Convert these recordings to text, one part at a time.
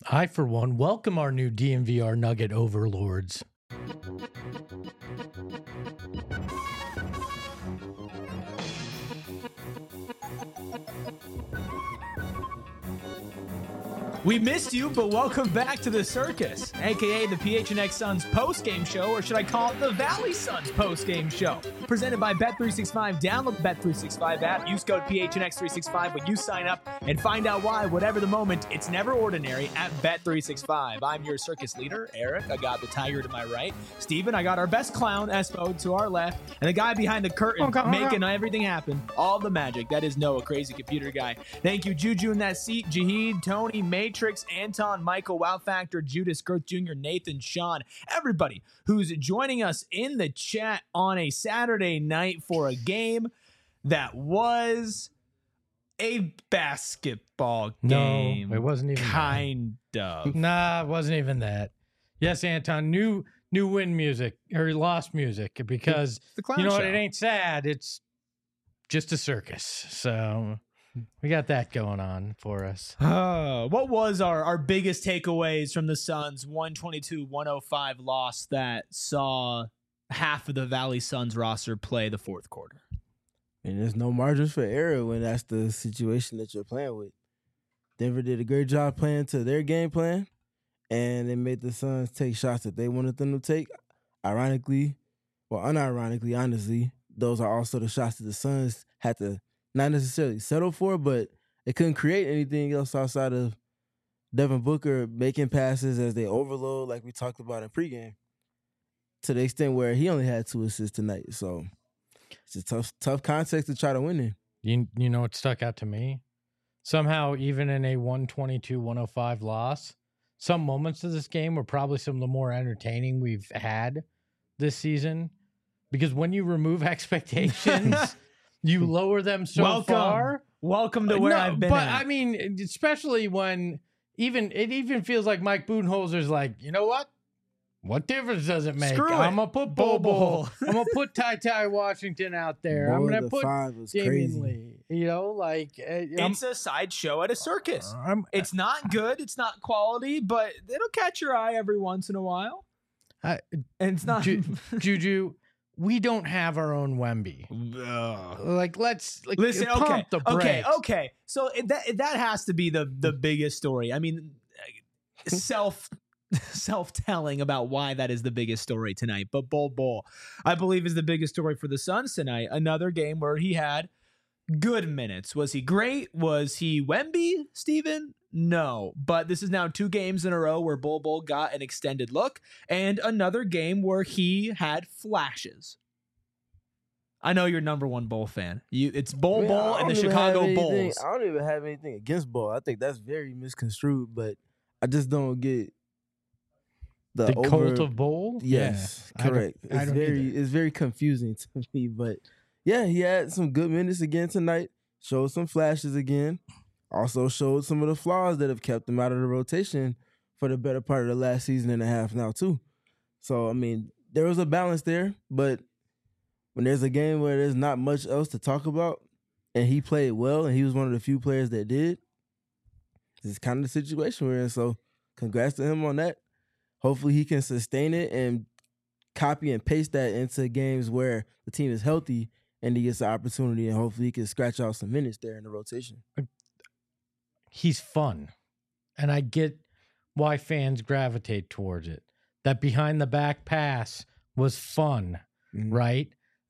I, for one, welcome our new DMVR Nugget overlords. We missed you, but welcome back to the circus, aka the PHNX Suns post-game show, or should I call it the Valley Suns post-game show? Presented by Bet365. Download the Bet365 app. Use code PHNX365 when you sign up and find out why, whatever the moment, it's never ordinary at Bet365. I'm your circus leader, Eric. I got the tiger to my right. Steven, I got our best clown, Espo, to our left. And the guy behind the curtain making everything happen. All the magic. That is Noah, crazy computer guy. Thank you, Juju in that seat, Jaheed, Tony, Matrix, Anton, Michael, Wow Factor, Judas, Girth Jr., Nathan, Sean, everybody who's joining us in the chat on a Saturday night for a game that was a basketball game. No, it wasn't even kind of. Nah, it wasn't even that. Yes, Anton, new win music or lost music because The clown you know show. what? It ain't sad. It's just a circus. So we got that going on for us. What was our biggest takeaways from the Suns 122-105 loss that saw half of the Valley Suns roster play the fourth quarter? And there's no margins for error when that's the situation that you're playing with. Denver did a great job playing to their game plan, and they made the Suns take shots that they wanted them to take. Ironically, or unironically, honestly, those are also the shots that the Suns had to not necessarily settle for, but they couldn't create anything else outside of Devin Booker making passes as they overload, like we talked about in pregame, to the extent where he only had 2 assists tonight. So it's a tough context to try to win in. You know what stuck out to me? Somehow, even in a 122-105 loss, some moments of this game were probably some of the more entertaining we've had this season. Because when you remove expectations, you lower them so far. Welcome to where I've been But at. I mean, especially when it even feels like Mike Budenholzer's like, you know what? What difference does it make? Screw it. I'm gonna put Bol Bol. I'm gonna put Ty Washington out there. I'm Boy, gonna the put 5 was Damian crazy. Lee. You know, like It's a sideshow at a circus. I'm, It's not good. It's not quality, but it'll catch your eye every once in a while. I- And it's not. Juju. We don't have our own Wemby. Like, let's Listen, pump the brakes. okay. So that has to be the biggest story. I mean, self-telling about why that is the biggest story tonight. But Bol, I believe, is the biggest story for the Suns tonight. Another game where he had good minutes. Was he great? Was he Wemby, Steven? No. But this is now 2 games in a row where Bol got an extended look, and another game where he had flashes. I know you're number one Bull fan. It's Bol I mean, I and the don't even Chicago have anything- Bulls. I don't even have anything against Ball. I think that's very misconstrued, but I just don't get The cult of Bowl? Yes, Yeah, correct. I don't either. It's very confusing to me, but yeah, he had some good minutes again tonight. Showed some flashes again. Also showed some of the flaws that have kept him out of the rotation for the better part of the last season and a half now too. So I mean, there was a balance there, but when there's a game where there's not much else to talk about, and he played well, and he was one of the few players that did, this is kind of the situation we're in. So congrats to him on that. Hopefully he can sustain it and copy and paste that into games where the team is healthy and he gets the opportunity, and hopefully he can scratch out some minutes there in the rotation. He's fun. And I get why fans gravitate towards it. That behind the back pass was fun, right?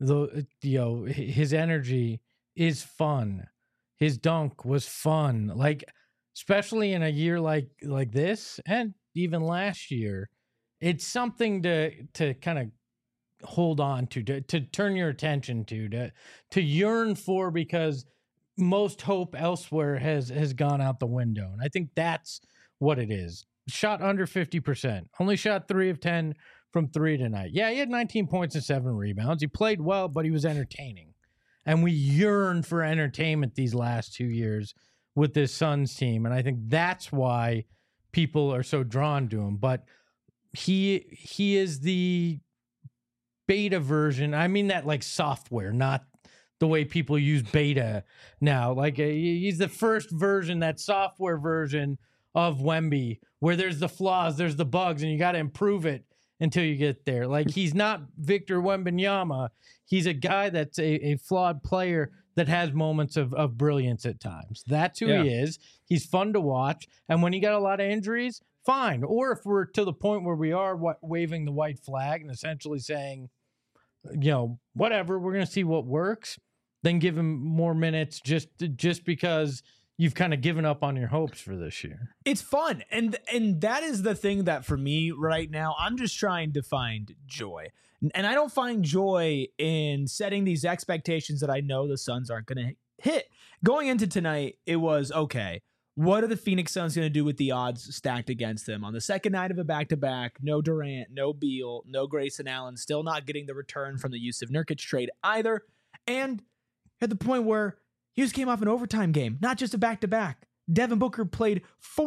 His energy is fun. His dunk was fun. Like, especially in a year like this, and even last year, it's something to kind of hold on to turn your attention to yearn for, because most hope elsewhere has gone out the window. And I think that's what it is. Shot under 50%. Only shot 3 of 10 from 3 tonight. Yeah, he had 19 points and 7 rebounds. He played well, but he was entertaining. And we yearn for entertainment these last 2 years with this Suns team. And I think that's why people are so drawn to him. But he is the beta version. I mean that like software, not the way people use beta now. Like he's the first version, that software version of Wemby, where there's the flaws, there's the bugs, and you got to improve it until you get there. Like, he's not Victor Wembanyama. He's a guy that's a flawed player that has moments of brilliance at times. That's who he is. He's fun to watch. And when he got a lot of injuries, fine. Or if we're to the point where we are waving the white flag and essentially saying, whatever, we're going to see what works, then give him more minutes just because you've kind of given up on your hopes for this year. It's fun. And that is the thing that for me right now, I'm just trying to find joy. And I don't find joy in setting these expectations that I know the Suns aren't going to hit. Going into tonight, it was, okay, what are the Phoenix Suns going to do with the odds stacked against them? On the second night of a back-to-back, no Durant, no Beal, no Grayson Allen, still not getting the return from the Jusuf Nurkic trade either. And at the point where he just came off an overtime game, not just a back-to-back. Devin Booker played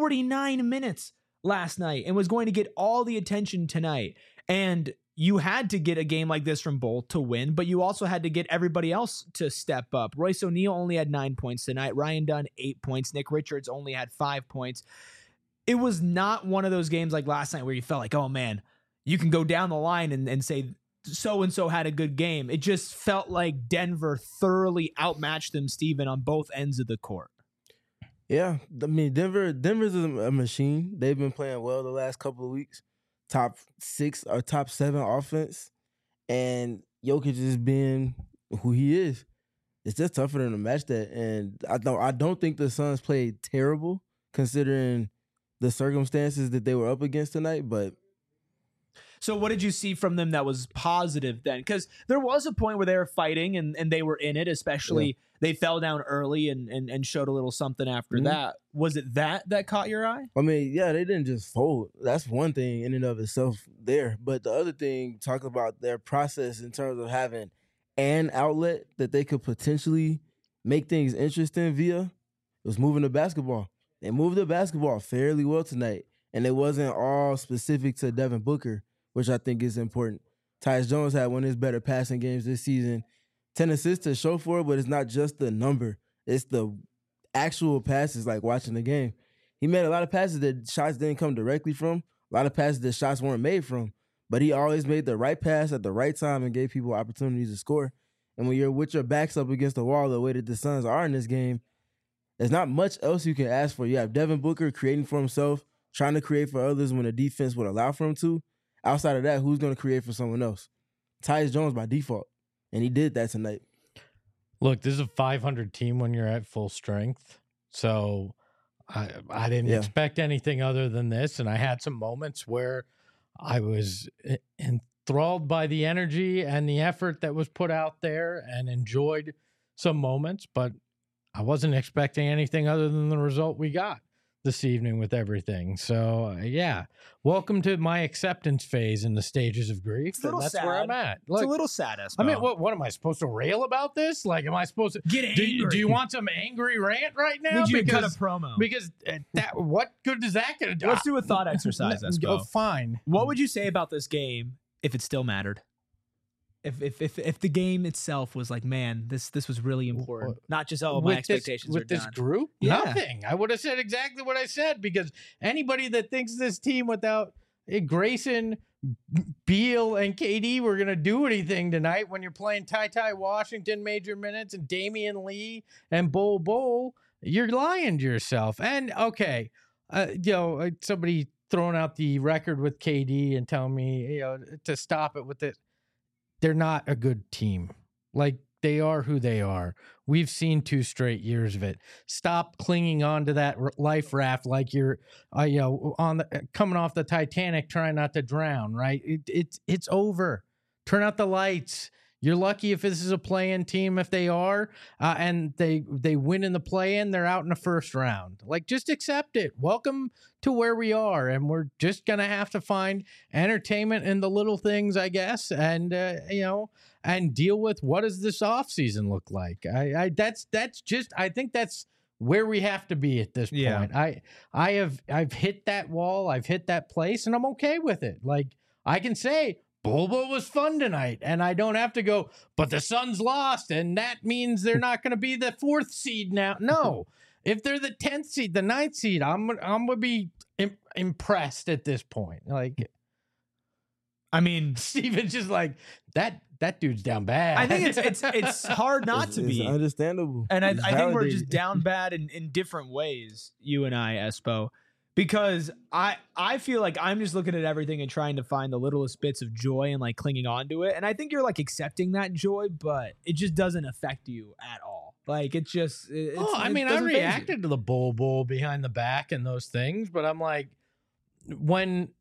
49 minutes last night and was going to get all the attention tonight. And you had to get a game like this from Bolt to win, but you also had to get everybody else to step up. Royce O'Neal only had 9 points tonight. Ryan Dunn, 8 points. Nick Richards only had 5 points. It was not one of those games like last night where you felt like, oh man, you can go down the line and say so-and-so had a good game. It just felt like Denver thoroughly outmatched them, Steven, on both ends of the court. Yeah, I mean, Denver's a machine. They've been playing well the last couple of weeks. Top 6 or top 7 offense, and Jokic is being who he is. It's just tough for them to match that, and I don't think the Suns played terrible considering the circumstances that they were up against tonight. But so what did you see from them that was positive then? Because there was a point where they were fighting and they were in it, especially they fell down early and showed a little something after that. Was it that caught your eye? I mean, yeah, they didn't just fold. That's one thing in and of itself there. But the other thing, talk about their process in terms of having an outlet that they could potentially make things interesting via, was moving the basketball. They moved the basketball fairly well tonight, and it wasn't all specific to Devin Booker, which I think is important. Tyus Jones had one of his better passing games this season. 10 assists to show for it, but it's not just the number. It's the actual passes, like watching the game. He made a lot of passes that shots didn't come directly from, a lot of passes that shots weren't made from, but he always made the right pass at the right time and gave people opportunities to score. And when you're with your backs up against the wall the way that the Suns are in this game, there's not much else you can ask for. You have Devin Booker creating for himself, trying to create for others when the defense would allow for him to. Outside of that, who's going to create for someone else? Tyus Jones by default. And he did that tonight. Look, this is a 500 team when you're at full strength. So I didn't expect anything other than this. And I had some moments where I was enthralled by the energy and the effort that was put out there and enjoyed some moments. But I wasn't expecting anything other than the result we got this evening with everything. So, welcome to my acceptance phase in the stages of grief. And that's sad. Where I'm at. Look, it's a little sad, Espo. I mean, what am I supposed to rail about this? Like, am I supposed to get angry? Do you want some angry rant right now? Need you to cut a promo. Because what good is that going to do? Let's do a thought exercise, Espo. Oh, fine. What would you say about this game if it still mattered? If the game itself was like, man, this was really important. Not just, my expectations are done. With this group? Yeah. Nothing. I would have said exactly what I said, because anybody that thinks this team without Grayson, Beal, and KD were going to do anything tonight when you're playing Ty Washington major minutes and Damian Lee and Bol, you're lying to yourself. And, okay, somebody throwing out the record with KD and telling me, to stop it with it. They're not a good team. Like, they are who they are. We've seen 2 straight years of it. Stop clinging on to that life raft like you're, coming off the Titanic trying not to drown. Right? It's over. Turn out the lights. You're lucky if this is a play-in team. If they are, and they win in the play-in, they're out in the first round. Like, just accept it. Welcome to where we are, and we're just gonna have to find entertainment in the little things, I guess, and and deal with what does this offseason look like. I think that's where we have to be at this point. I've hit that wall. I've hit that place, and I'm okay with it. Like, I can say, Bobo was fun tonight, and I don't have to go, but the Suns lost, and that means they're not going to be the 4th seed now. No, if they're the 10th seed, the 9th seed, I'm gonna be impressed at this point. Like, I mean, Steven's just like that dude's down bad. I think it's hard not to be. It's understandable. And I think we're just validated. down bad in different ways, you and I, Espo. Because I feel like I'm just looking at everything and trying to find the littlest bits of joy and like clinging on to it. And I think you're like accepting that joy, but it just doesn't affect you at all. Like it's just I reacted to the bull behind the back and those things, but I'm like, when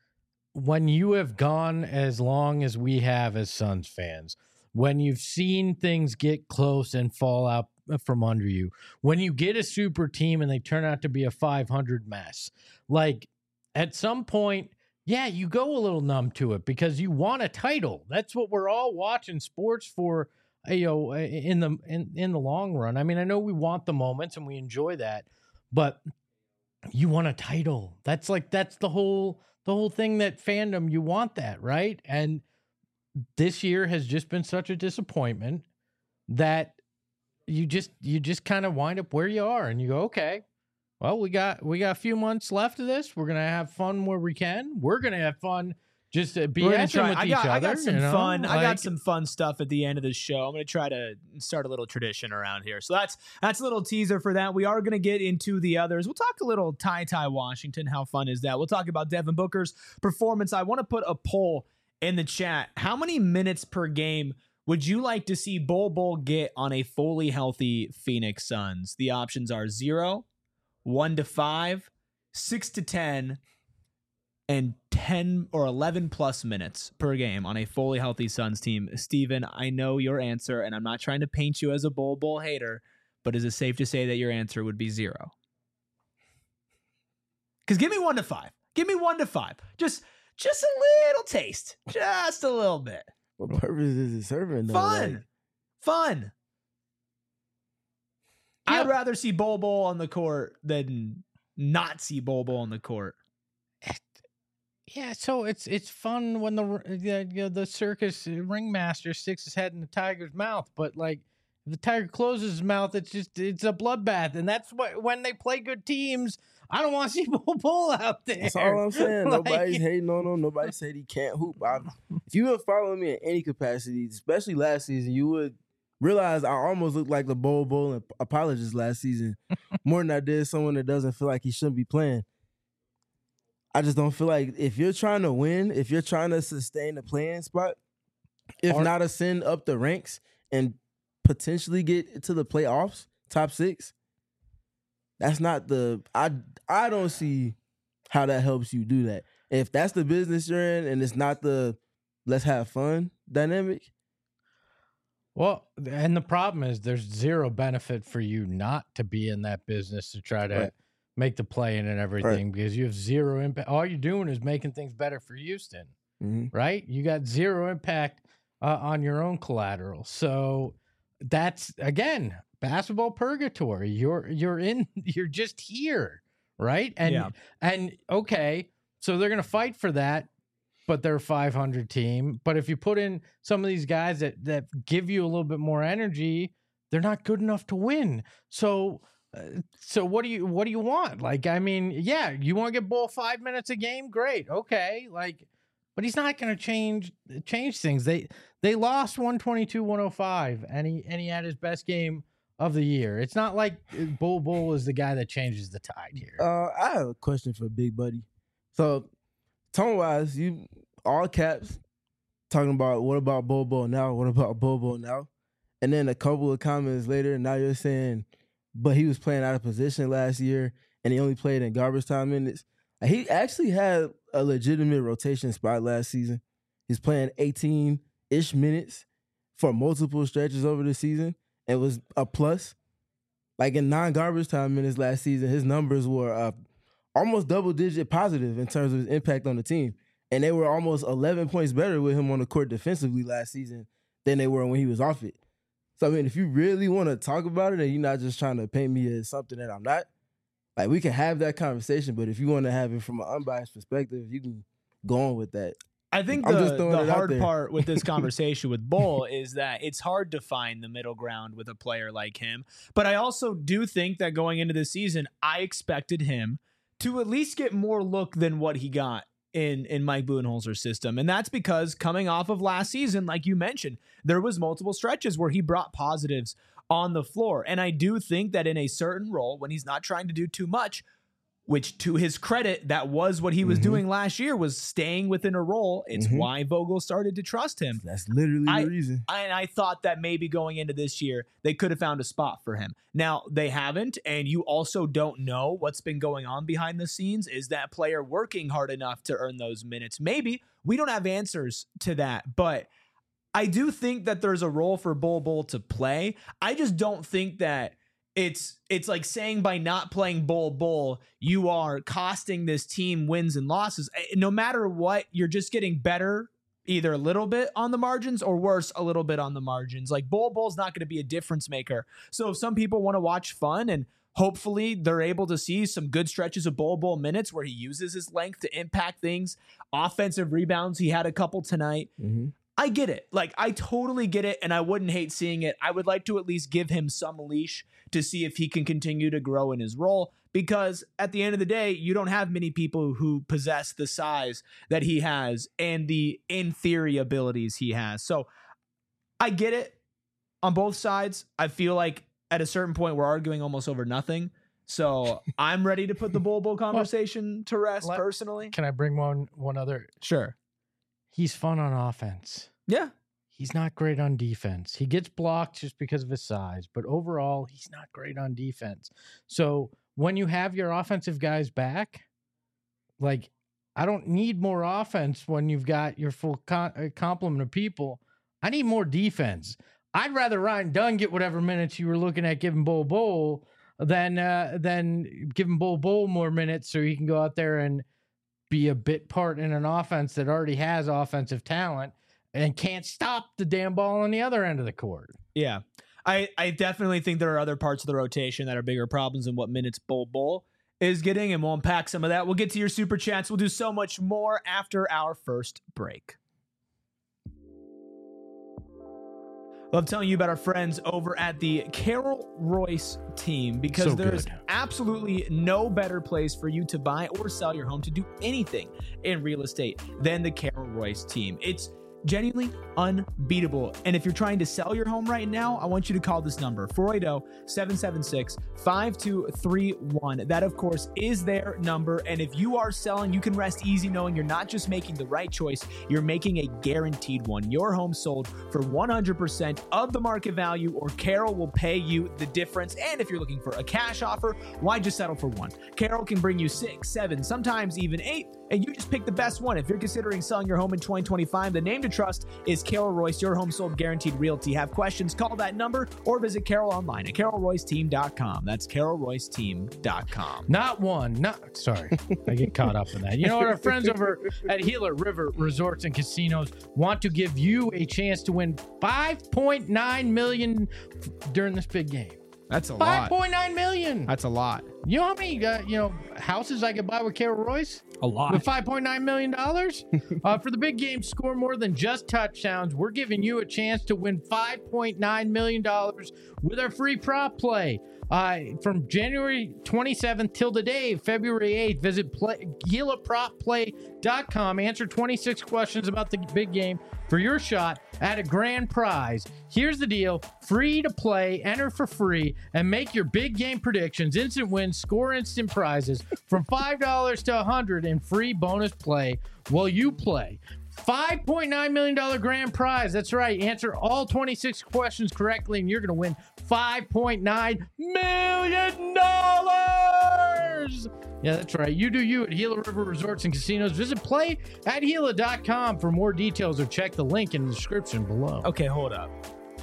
you have gone as long as we have as Suns fans, when you've seen things get close and fall out from under you, when you get a super team and they turn out to be a 500 mess, like at some point, yeah, you go a little numb to it because you want a title. That's what we're all watching sports for, you know, in the long run. I mean, I know we want the moments and we enjoy that, but you want a title. That's the whole thing, that fandom, you want that, right? And this year has just been such a disappointment that you just kind of wind up where you are and you go, okay, well, we got a few months left of this. We're going to have fun where we can. We're going to have fun just BSing with each other. I got some fun. I got some fun stuff at the end of the show. I'm going to try to start a little tradition around here. So that's a little teaser for that. We are going to get into the others. We'll talk a little Ty Washington. How fun is that? We'll talk about Devin Booker's performance. I want to put a poll in the chat. How many minutes per game would you like to see Bol get on a fully healthy Phoenix Suns? The options are 0, 1 to 5, 6 to 10, and 10 or 11 plus minutes per game on a fully healthy Suns team. Steven, I know your answer, and I'm not trying to paint you as a Bol hater, but is it safe to say that your answer would be 0? Because give me 1 to 5. Give me 1 to 5. Just a little taste. Just a little bit. What purpose is it serving? Though? Fun. Yeah. I'd rather see Bol on the court than not see Bol on the court. Yeah, so it's fun when the circus ringmaster sticks his head in the tiger's mouth, but like if the tiger closes his mouth, it's a bloodbath, and that's when they play good teams. I don't want to see Bol out there. That's all I'm saying. Nobody's hating on him. Nobody said he can't hoop. If you would follow me in any capacity, especially last season, you would realize I almost looked like the Bol apologist last season more than I did someone that doesn't feel like he shouldn't be playing. I just don't feel like if you're trying to win, if you're trying to sustain the playing spot, if not ascend up the ranks and potentially get to the playoffs, top 6, that's not I don't see how that helps you do that. If that's the business you're in and it's not the let's have fun dynamic. Well, and the problem is there's zero benefit for you not to be in that business to try to make the play in and everything because you have zero impact. All you're doing is making things better for Houston, right? You got zero impact on your own collateral. So that's, again, basketball purgatory. You're just here, right? And okay, so they're gonna fight for that, but they're a 500 team. But if you put in some of these guys that give you a little bit more energy, they're not good enough to win. So what do you want? Like, I mean, yeah, you want to get Bol 5 minutes a game? Great, okay, like, but he's not gonna change things. They lost 122-105, and he had his best game of the year. It's not like Bol is the guy that changes the tide here. I have a question for Big Buddy. So, tone-wise, you all caps talking about what about Bol now? What about Bol now? And then a couple of comments later, now you're saying, but he was playing out of position last year, and he only played in garbage time minutes. He actually had a legitimate rotation spot last season. He's playing 18-ish minutes for multiple stretches over the season. It was a plus. Like in non-garbage time minutes last season, his numbers were almost double-digit positive in terms of his impact on the team. And they were almost 11 points better with him on the court defensively last season than they were when he was off it. So, I mean, if you really want to talk about it and you're not just trying to paint me as something that I'm not, like, we can have that conversation. But if you want to have it from an unbiased perspective, you can go on with that. I think I'm just throwing the it out hard there. part with this conversation with Bull is that it's hard to find the middle ground with a player like him. But I also do think that going into the season, I expected him to at least get more look than what he got in Mike Budenholzer's system. And that's because coming off of last season, like you mentioned, there was multiple stretches where he brought positives on the floor. And I do think that in a certain role, when he's not trying to do too much, which to his credit, that was what he was doing last year, was staying within a role. It's why Vogel started to trust him. That's literally the reason. I thought that maybe going into this year, they could have found a spot for him. Now, they haven't, and you also don't know what's been going on behind the scenes. Is that player working hard enough to earn those minutes? Maybe. We don't have answers to that, but I do think that there's a role for Bull to play. I just don't think that it's like saying by not playing Bull, you are costing this team wins and losses. No matter what, you're just getting better either a little bit on the margins or worse, a little bit on the margins. Like Bull's not going to be a difference maker. So if some people want to watch fun and hopefully they're able to see some good stretches of Bull minutes where he uses his length to impact things, offensive rebounds, he had a couple tonight. I get it. Like, I totally get it, and I wouldn't hate seeing it. I would like to at least give him some leash to see if he can continue to grow in his role, because at the end of the day, you don't have many people who possess the size that he has and the, in theory, abilities he has. So I get it on both sides. I feel like at a certain point, we're arguing almost over nothing. So I'm ready to put the Bull conversation to rest personally. Can I bring one other? Sure. He's fun on offense. Yeah. He's not great on defense. He gets blocked just because of his size, but overall, he's not great on defense. So when you have your offensive guys back, like, I don't need more offense when you've got your full complement of people. I need more defense. I'd rather Ryan Dunn get whatever minutes you were looking at giving Bull than giving Bull more minutes so he can go out there and be a bit part in an offense that already has offensive talent and can't stop the damn ball on the other end of the court. Yeah. I definitely think there are other parts of the rotation that are bigger problems than what minutes Bull is getting, and we'll unpack some of that. We'll get to your super chats. We'll do so much more after our first break. Love telling you about our friends over at the Carol Royce team, because there's absolutely no better place for you to buy or sell your home, to do anything in real estate, than the Carol Royce team. It's genuinely unbeatable. And if you're trying to sell your home right now, I want you to call this number, 480-776-5231. That, of course, is their number. And if you are selling, you can rest easy knowing you're not just making the right choice, you're making a guaranteed one. Your home sold for 100% of the market value, or Carol will pay you the difference. And if you're looking for a cash offer, why just settle for one? Carol can bring you 6, 7, sometimes even 8, and you just pick the best one. If you're considering selling your home in 2025, the name to trust is Carol Royce, your home sold guaranteed realty. Have questions, call that number, or visit Carol online at carolroyceteam.com. That's carolroyceteam.com. Sorry, I get caught up in that. You know what? Our friends over at Gila River Resorts and Casinos want to give you a chance to win $5.9 million during this big game. That's a lot. $5.9 million. That's a lot. You know how many houses I could buy with Carol Royce? A lot. With $5.9 million? For the big game, score more than just touchdowns. We're giving you a chance to win $5.9 million with our free prop play. From January 27th till today, February 8th, visit GilaPropPlay.com. Answer 26 questions about the big game for your shot at a grand prize. Here's the deal. Free to play, enter for free, and make your big game predictions. Instant wins, score instant prizes from $5 to $100 in free bonus play while you play. $5.9 million grand prize. That's right. Answer all 26 questions correctly, and you're going to win $5.9 million. Yeah, that's right. You do you at Gila River Resorts and Casinos. Visit play@Gila.com for more details, or check the link in the description below. Okay, hold up.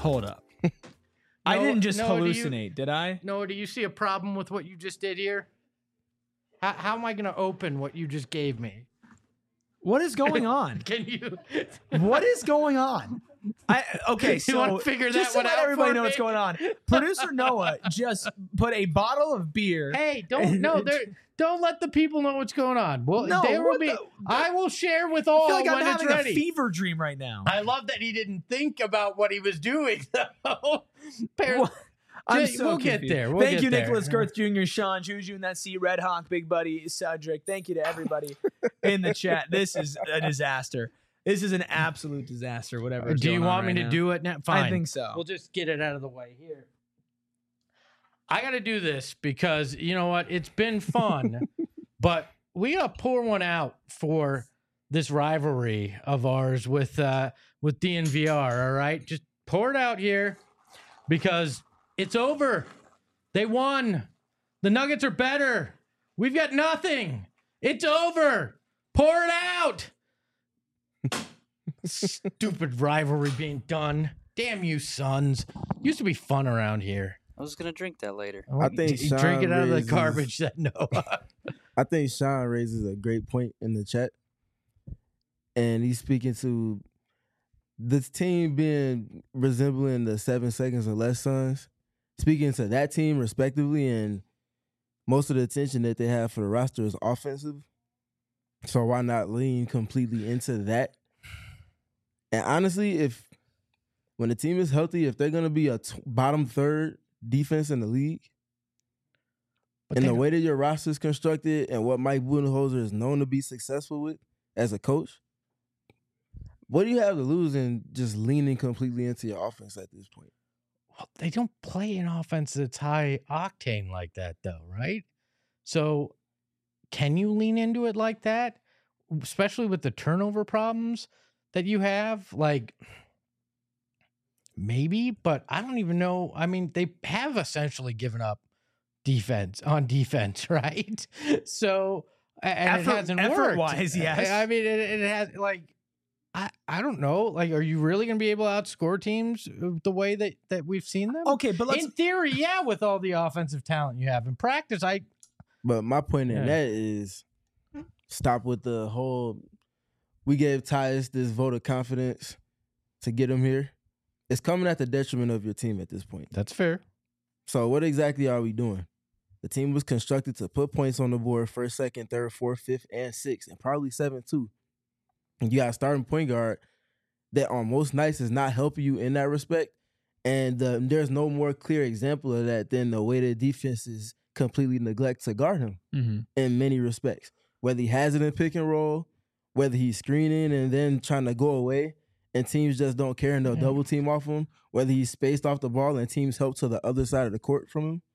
I didn't just hallucinate, did I? No, do you see a problem with what you just did here? How am I going to open what you just gave me? What is going on? Can you? What is going on? Okay, You so wanna figure just that to one let out everybody for know what's me? going on. Producer Noah just put a bottle of beer. Hey, don't let the people know what's going on. Well, No, there will what be. the- I will share with I all feel like I'm when it's having a ready. fever dream right now. I love that he didn't think about what he was doing. Though. What? I'm Jay, so we'll confused. get there. We'll Thank get you, there. Nicholas Girth Jr., Sean Juju, and that C Red Hawk, Big Buddy, Cedric. Thank you to everybody in the chat. This is a disaster. This is an absolute disaster. Whatever. Do you want me to do it now? Fine. I think so. We'll just get it out of the way here. I got to do this because you know what? It's been fun, but we got to pour one out for this rivalry of ours with DNVR. All right, just pour it out here because it's over. They won. The Nuggets are better. We've got nothing. It's over. Pour it out. Stupid rivalry being done. Damn you, Suns. Used to be fun around here. I was gonna drink that later. I think You drink it Sean out of the raises- garbage that Noah. I think Sean raises a great point in the chat. And he's speaking to this team being resembling the 7 seconds or less Suns. Speaking to that team respectively, and most of the attention that they have for the roster is offensive. So why not lean completely into that? And honestly, when the team is healthy, if they're going to be a bottom third defense in the league, and the way that your roster is constructed and what Mike Budenholzer is known to be successful with as a coach, what do you have to lose in just leaning completely into your offense at this point? Well, they don't play an offense that's high octane like that, though, right? So, can you lean into it like that, especially with the turnover problems that you have? Like, maybe, but I don't even know. I mean, they have essentially given up on defense, right? So, and it hasn't worked. Effort-wise, yes. I mean, it has, like, I don't know. Like, are you really going to be able to outscore teams the way that we've seen them? Okay, but let's. In theory, yeah, with all the offensive talent you have. In practice, But my point in Yeah. that is stop with the whole, we gave Tyus this vote of confidence to get him here. It's coming at the detriment of your team at this point. that's fair. So what exactly are we doing? The team was constructed to put points on the board first, second, third, fourth, fifth, and sixth, and probably seventh too. And you got a starting point guard that on most nights is not helping you in that respect. And there's no more clear example of that than the way that defenses completely neglect to guard him in many respects. Whether he has it in pick and roll, whether he's screening and then trying to go away and teams just don't care and they'll double team off him, whether he's spaced off the ball and teams help to the other side of the court from him.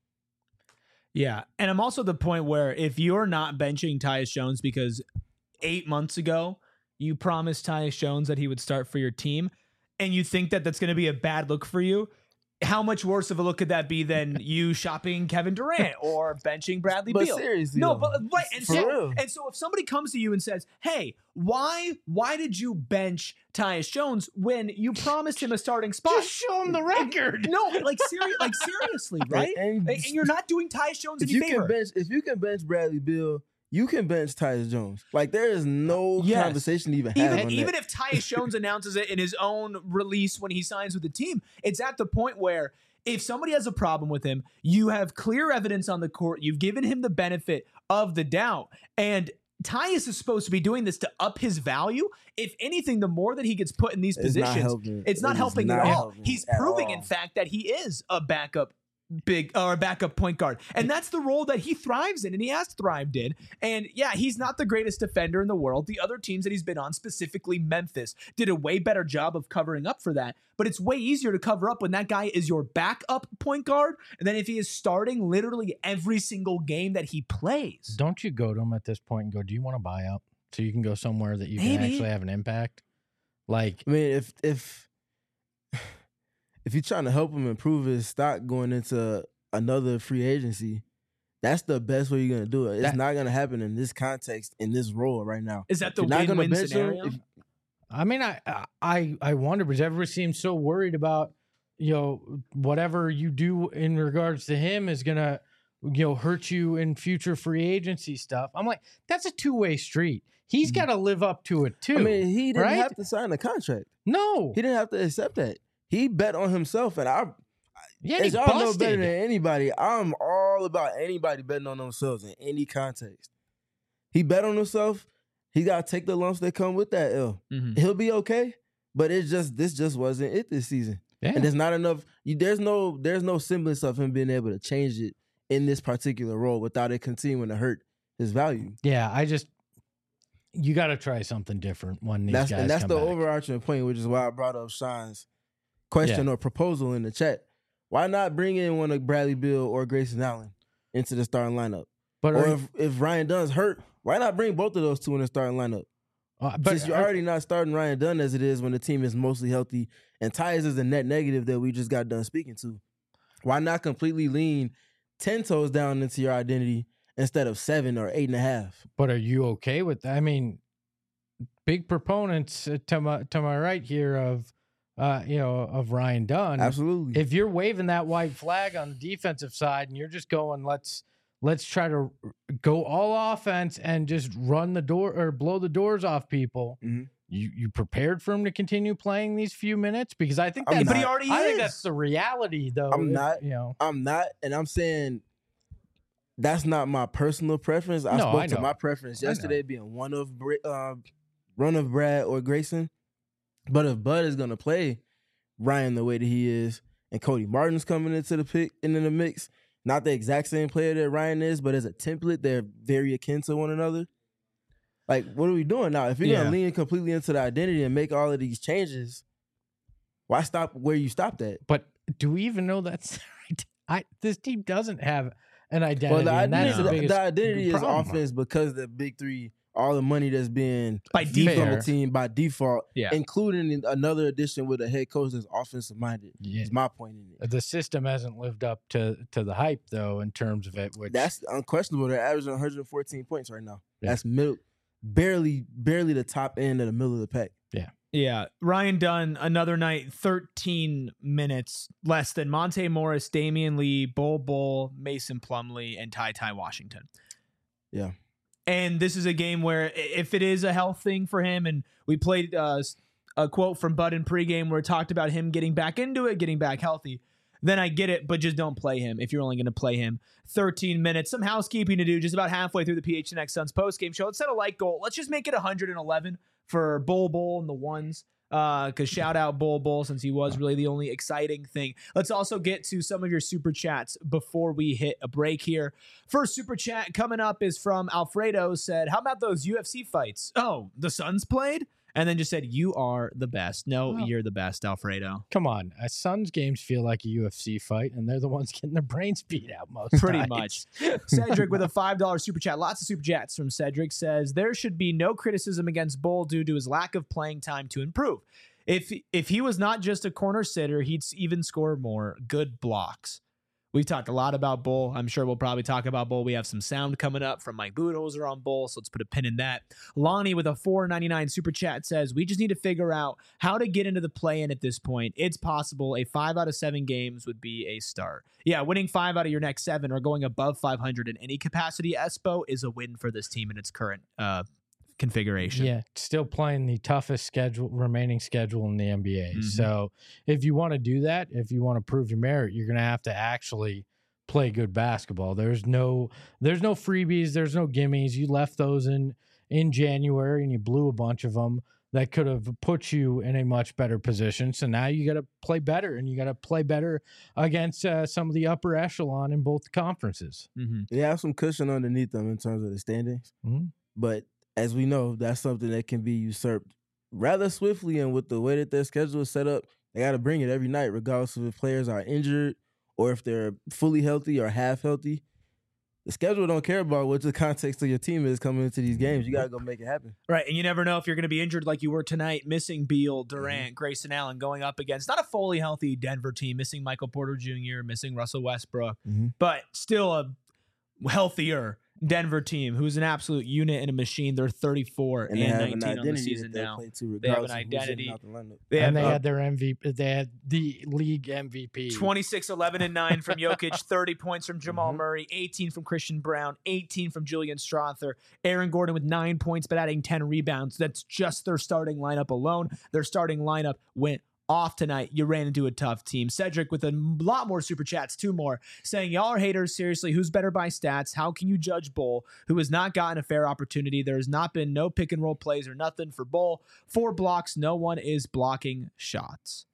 Yeah, and I'm also at the point where if you're not benching Tyus Jones because 8 months ago you promised Tyus Jones that he would start for your team, and you think that that's going to be a bad look for you, how much worse of a look could that be than you shopping Kevin Durant or benching Bradley But Beal? seriously, No, though, but right, for real. and so if somebody comes to you and says, "Hey, why did you bench Tyus Jones when you promised him a starting spot?" Just show him the record. No, seriously, right? And And you're not doing Tyus Jones if any you favor. if you can bench Bradley Beal, you can bench Tyus Jones. Like there is no Yes. conversation to even have on Even that. if Tyus Jones announces it in his own release when he signs with the team, it's at the point where if somebody has a problem with him, you have clear evidence on the court. You've given him the benefit of the doubt. And Tyus is supposed to be doing this to up his value. If anything, the more that he gets put in these It's not positions, helping. it's not It is helping not at all. helping He's at proving, all. in fact, that he is a backup backup point guard. And that's the role that he thrives in, and he has thrived in. And yeah, he's not the greatest defender in the world. The other teams that he's been on, specifically Memphis, did a way better job of covering up for that. But it's way easier to cover up when that guy is your backup point guard than if he is starting literally every single game that he plays. Don't you go to him at this point and go, do you want to buy up so you can go somewhere that you can Maybe. actually have an impact? Like, I mean, if you're trying to help him improve his stock going into another free agency, that's the best way you're gonna do it. It's That- not gonna happen in this context, in this role right now. Is that the You're not gonna win-win bench him scenario? I mean, I wonder because everybody seems so worried about, whatever you do in regards to him is gonna, hurt you in future free agency stuff. I'm like, that's a two-way street. He's got to live up to it too. I mean, he didn't right? have to sign a contract. No. He didn't have to accept that. He bet on himself, and Yeah, as he y'all know busted. better than anybody, I'm all about anybody betting on themselves in any context. He bet on himself. He got to take the lumps that come with that L. Mhm. He'll be okay, but this just wasn't it this season. Yeah. And there's not enough. There's no semblance of him being able to change it in this particular role without it continuing to hurt his value. Yeah, you got to try something different when these guys And that's come the back. overarching point, which is why I brought up Sean's question or proposal in the chat. Why not bring in one of Bradley Beal or Grayson Allen into the starting lineup? But Or if Ryan Dunn's hurt, why not bring both of those two in the starting lineup? Since you're already not starting Ryan Dunn as it is when the team is mostly healthy, and Tyus is a net negative that we just got done speaking to, why not completely lean 10 toes down into your identity instead of 7 or 8.5? But are you okay with that? I mean, big proponents to my right here of Ryan Dunn. Absolutely. If you're waving that white flag on the defensive side and you're just going, let's try to go all offense and just run the door or blow the doors off people. Mhm. You prepared for him to continue playing these few minutes? Because I think I'm that's, not. But he already I is. think that's the reality, though. I'm not. I'm not, and I'm saying that's not my personal preference. I No, spoke I to know. my preference I know. yesterday being one of Brad or Grayson. But if Bud is gonna play Ryan the way that he is, and Cody Martin's coming into the mix, not the exact same player that Ryan is, but as a template, they're very akin to one another. Like, what are we doing now? If you're gonna lean completely into the identity and make all of these changes, why stop where you stopped at? But do we even know that's right? This team doesn't have an identity. Well, and that's the biggest identity is problem. offense because the big three, all the money that's being By used on default. the team by default, Yeah. including another addition with a head coach that's offensive minded. Yeah. Is my point in it. The system hasn't lived up to the hype, though, in terms of it. Which That's unquestionable. They're averaging 114 points right now. Yeah. That's barely the top end of the middle of the pack. Yeah. Ryan Dunn, another night, 13 minutes less than Monte Morris, Damian Lee, Bull, Mason Plumlee, and Ty Washington. Yeah. And this is a game where if it is a health thing for him, and we played a quote from Bud in pregame where it talked about him getting back into it, getting back healthy, then I get it, but just don't play him if you're only going to play him 13 minutes. Some housekeeping to do just about halfway through the PHNX Suns postgame show. Let's set a like goal. Let's just make it 111 for Bull and the ones. Because shout out Bull since he was really the only exciting thing. Let's also get to some of your super chats before we hit a break here. First super chat coming up is from Alfredo. Said, how about those UFC fights? Oh, the Suns played? And then just said, you are the best. No, Well, you're the best, Alfredo. come on, Suns games feel like a UFC fight, and they're the ones getting their brains beat out most Pretty nights. much. Cedric with a $5 super chat. Lots of super chats from Cedric. Says there should be no criticism against Bull due to his lack of playing time to improve. If he was not just a corner sitter, he'd even score more good blocks. We've talked a lot about Bull. I'm sure we'll probably talk about Bull. We have some sound coming up from Mike Budenholzer on Bull, so let's put a pin in that. Lonnie with a $4.99 super chat says, we just need to figure out how to get into the play-in at this point. It's possible a 5 out of 7 games would be a start. Yeah, winning 5 out of your next 7 or going above 500 in any capacity, Espo, is a win for this team in its current configuration. Yeah, still playing the toughest remaining schedule in the NBA. Mhm. So if you want to do that, if you want to prove your merit, you're going to have to actually play good basketball. There's no freebies, there's no gimmies. You left those in January and you blew a bunch of them that could have put you in a much better position. So now you got to play better, and you got to play better against some of the upper echelon in both conferences. Mm-hmm. They have some cushion underneath them in terms of the standings. Mhm. But as we know, that's something that can be usurped rather swiftly. And with the way that their schedule is set up, they got to bring it every night, regardless of if players are injured or if they're fully healthy or half healthy. The schedule don't care about what the context of your team is coming into these games. You got to go make it happen. Right, and you never know if you're going to be injured like you were tonight, missing Beal, Durant, Grayson Allen, going up against not a fully healthy Denver team, missing Michael Porter Jr., missing Russell Westbrook, but still a healthier Denver team, who's an absolute unit and a machine. They're 34 and 19 on the season now. They have an identity. They had their MVP. They had the league MVP. 26, 11, and 9 from Jokic, 30 points from Jamal Murray, 18 from Christian Brown, 18 from Julian Strother, Aaron Gordon with 9 points, but adding 10 rebounds. That's just their starting lineup alone. Their starting lineup went off tonight. You ran into a tough team. Cedric with a lot more super chats, 2 more, saying, y'all are haters. Seriously, who's better by stats? How can you judge Bull, who has not gotten a fair opportunity? There has not been no pick and roll plays or nothing for Bull. 4 blocks. No one is blocking shots.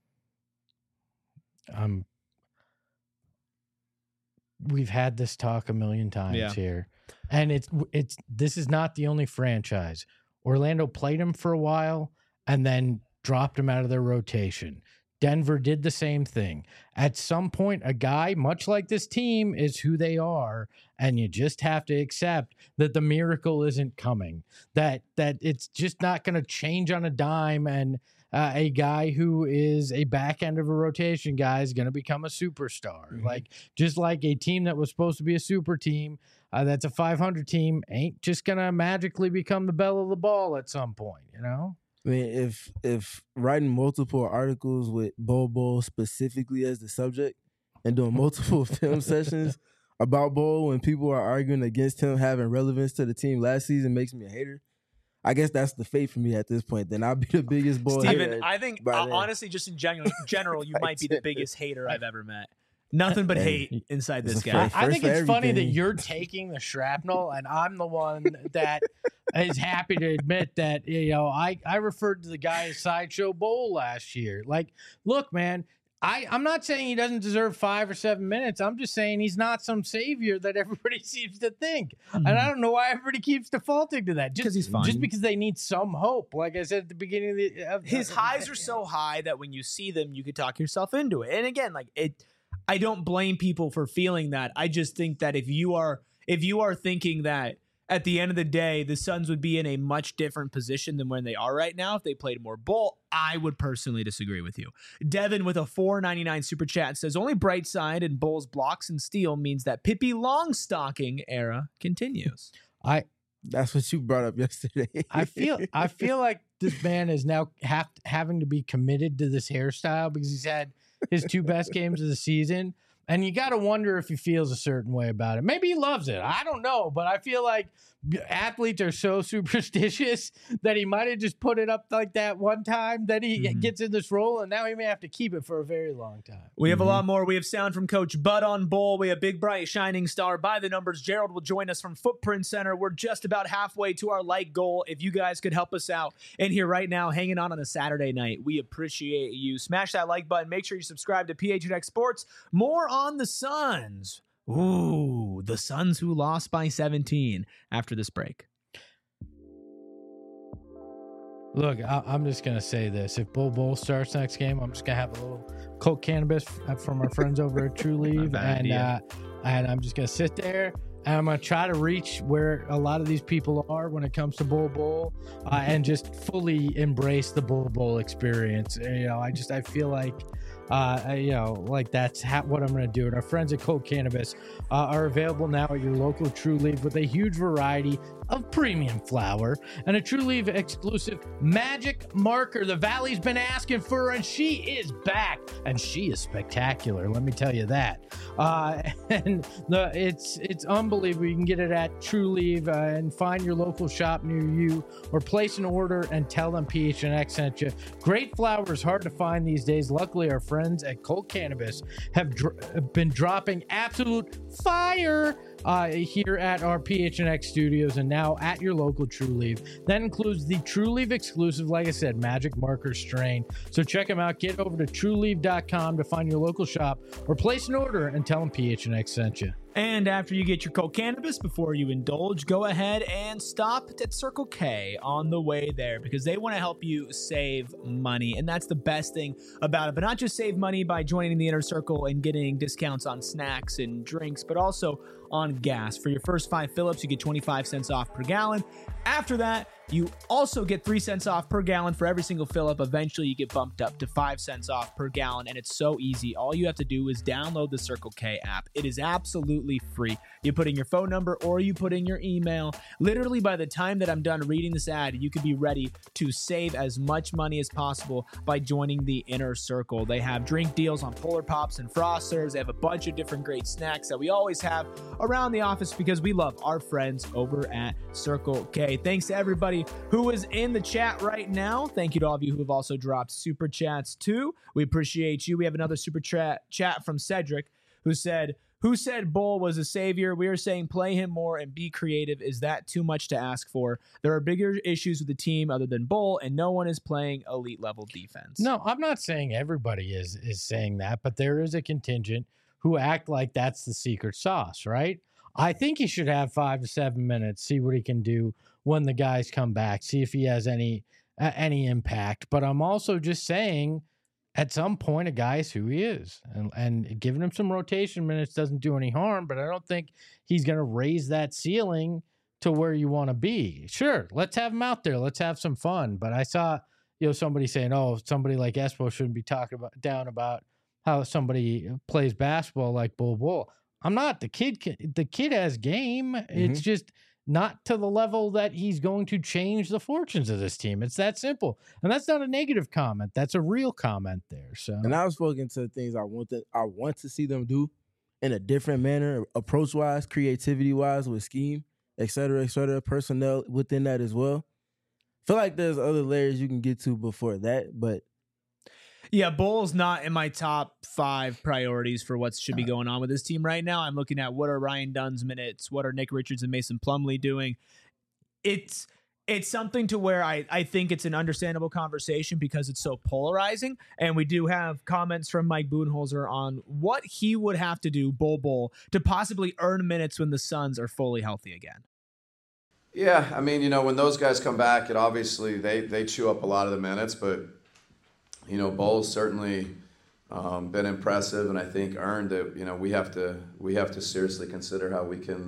We've had this talk a million times here, and this is not the only franchise. Orlando played him for a while and then dropped him out of their rotation. Denver did the same thing. At some point, a guy, much like this team, is who they are, and you just have to accept that the miracle isn't coming, that it's just not going to change on a dime, and a guy who is a back end of a rotation guy is going to become a superstar. Like, just like a team that was supposed to be a super team, that's a 500 team, ain't just going to magically become the belle of the ball at some point, you know? I mean, if writing multiple articles with Bol specifically as the subject and doing multiple film sessions about Bol when people are arguing against him having relevance to the team last season makes me a hater, I guess that's the fate for me at this point. Then I'll be the biggest Bol hater. Steven, I think, honestly, just in general, you might be the biggest hater I've ever met. Nothing but hate inside this guy. I think it's funny that you're taking the shrapnel and I'm the one that is happy to admit that, you know, I referred to the guy as Sideshow Bol last year. Like, look, man, I'm not saying he doesn't deserve 5 or 7 minutes. I'm just saying he's not some savior that everybody seems to think. And I don't know why everybody keeps defaulting to that. Because he's fine. Just because they need some hope. Like I said at the beginning of his highs are so high that when you see them, you could talk yourself into it. And again, like I don't blame people for feeling that. I just think that if you are thinking that at the end of the day, the Suns would be in a much different position than when they are right now if they played more Bol, I would personally disagree with you. Devin with a $4.99 super chat says, only bright side in Bol's blocks and steal means that Pippi Longstocking era continues. That's what you brought up yesterday. I feel like this man is now having to be committed to this hairstyle because he's had his 2 best games of the season. And you got to wonder if he feels a certain way about it. Maybe he loves it. I don't know. But I feel like athletes are so superstitious that he might have just put it up like that one time that he gets in this role. And now he may have to keep it for a very long time. We have a lot more. We have sound from Coach Bud on Bol. We have Big Bright Shining Star by the numbers. Gerald will join us from Footprint Center. We're just about halfway to our like goal. If you guys could help us out in here right now, hanging on a Saturday night, we appreciate you. Smash that like button. Make sure you subscribe to PHNX Sports. More on the Suns. Ooh, the Suns who lost by 17 after this break. Look, I'm just going to say this. If Bol starts next game, I'm just going to have a little coke cannabis from our friends over at True Leave. And I'm just going to sit there. And I'm going to try to reach where a lot of these people are when it comes to Bol and just fully embrace the Bol experience. You know, I feel like, like that's what I'm going to do. And our friends at Coke Cannabis are available now at your local True Leaf with a huge variety of premium flower and a True Leaf exclusive magic marker the Valley's been asking for, and she is back, and she is spectacular. Let me tell you that. It's unbelievable. You can get it at True Leaf and find your local shop near you, or place an order and tell them PHNX sent you. Great flower is hard to find these days. Luckily, our friends at Coke Cannabis have been dropping absolute fire here at our PHNX studios and now at your local True Leaf. That includes the True Leaf exclusive, like I said, magic marker strain. So check them out. Get over to trueleaf.com to find your local shop or place an order and tell them PHNX sent you. And after you get your Coke Cannabis, before you indulge, go ahead and stop at Circle K on the way there because they want to help you save money. And that's the best thing about it. But not just save money by joining the Inner Circle and getting discounts on snacks and drinks, but also on gas. For your first 5 fill-ups, you get 25 cents off per gallon. After that, you also get 3 cents off per gallon for every single fill-up. Eventually, you get bumped up to 5 cents off per gallon, and it's so easy. All you have to do is download the Circle K app. It is absolutely free. You put in your phone number or you put in your email. Literally, by the time that I'm done reading this ad, you could be ready to save as much money as possible by joining the Inner Circle. They have drink deals on Polar Pops and Frosters. They have a bunch of different great snacks that we always have around the office because we love our friends over at Circle K. Thanks to everybody who is in the chat right now. Thank you to all of you who have also dropped super chats too. We appreciate you. We have another super chat from Cedric who said Bull was a savior? We are saying play him more and be creative. Is that too much to ask for? There are bigger issues with the team other than Bull, and no one is playing elite level defense. No, I'm not saying everybody is saying that, but there is a contingent who act like that's the secret sauce, right? I think he should have 5 to 7 minutes, see what he can do when the guys come back, see if he has any impact. But I'm also just saying, at some point, a guy is who he is, and giving him some rotation minutes doesn't do any harm. But I don't think he's going to raise that ceiling to where you want to be. Sure, let's have him out there, let's have some fun. But I saw somebody saying, "Oh, somebody like Espo shouldn't be talking down about how somebody plays basketball like Bull." I'm not. The kid has game. Mm-hmm. It's just not to the level that he's going to change the fortunes of this team. It's that simple. And that's not a negative comment. That's a real comment there. So, and I've spoken to things I want to see them do in a different manner, approach-wise, creativity-wise, with scheme, et cetera, personnel within that as well. I feel like there's other layers you can get to before that, but yeah, Bull's not in my top 5 priorities for what should be going on with this team right now. I'm looking at what are Ryan Dunn's minutes, what are Nick Richards and Mason Plumlee doing. It's something to where I think it's an understandable conversation because it's so polarizing. And we do have comments from Mike Budenholzer on what he would have to do, Bull, to possibly earn minutes when the Suns are fully healthy again. Yeah, I mean, when those guys come back, it obviously they chew up a lot of the minutes, but Bull's certainly been impressive, and I think earned it. We have to seriously consider how we can,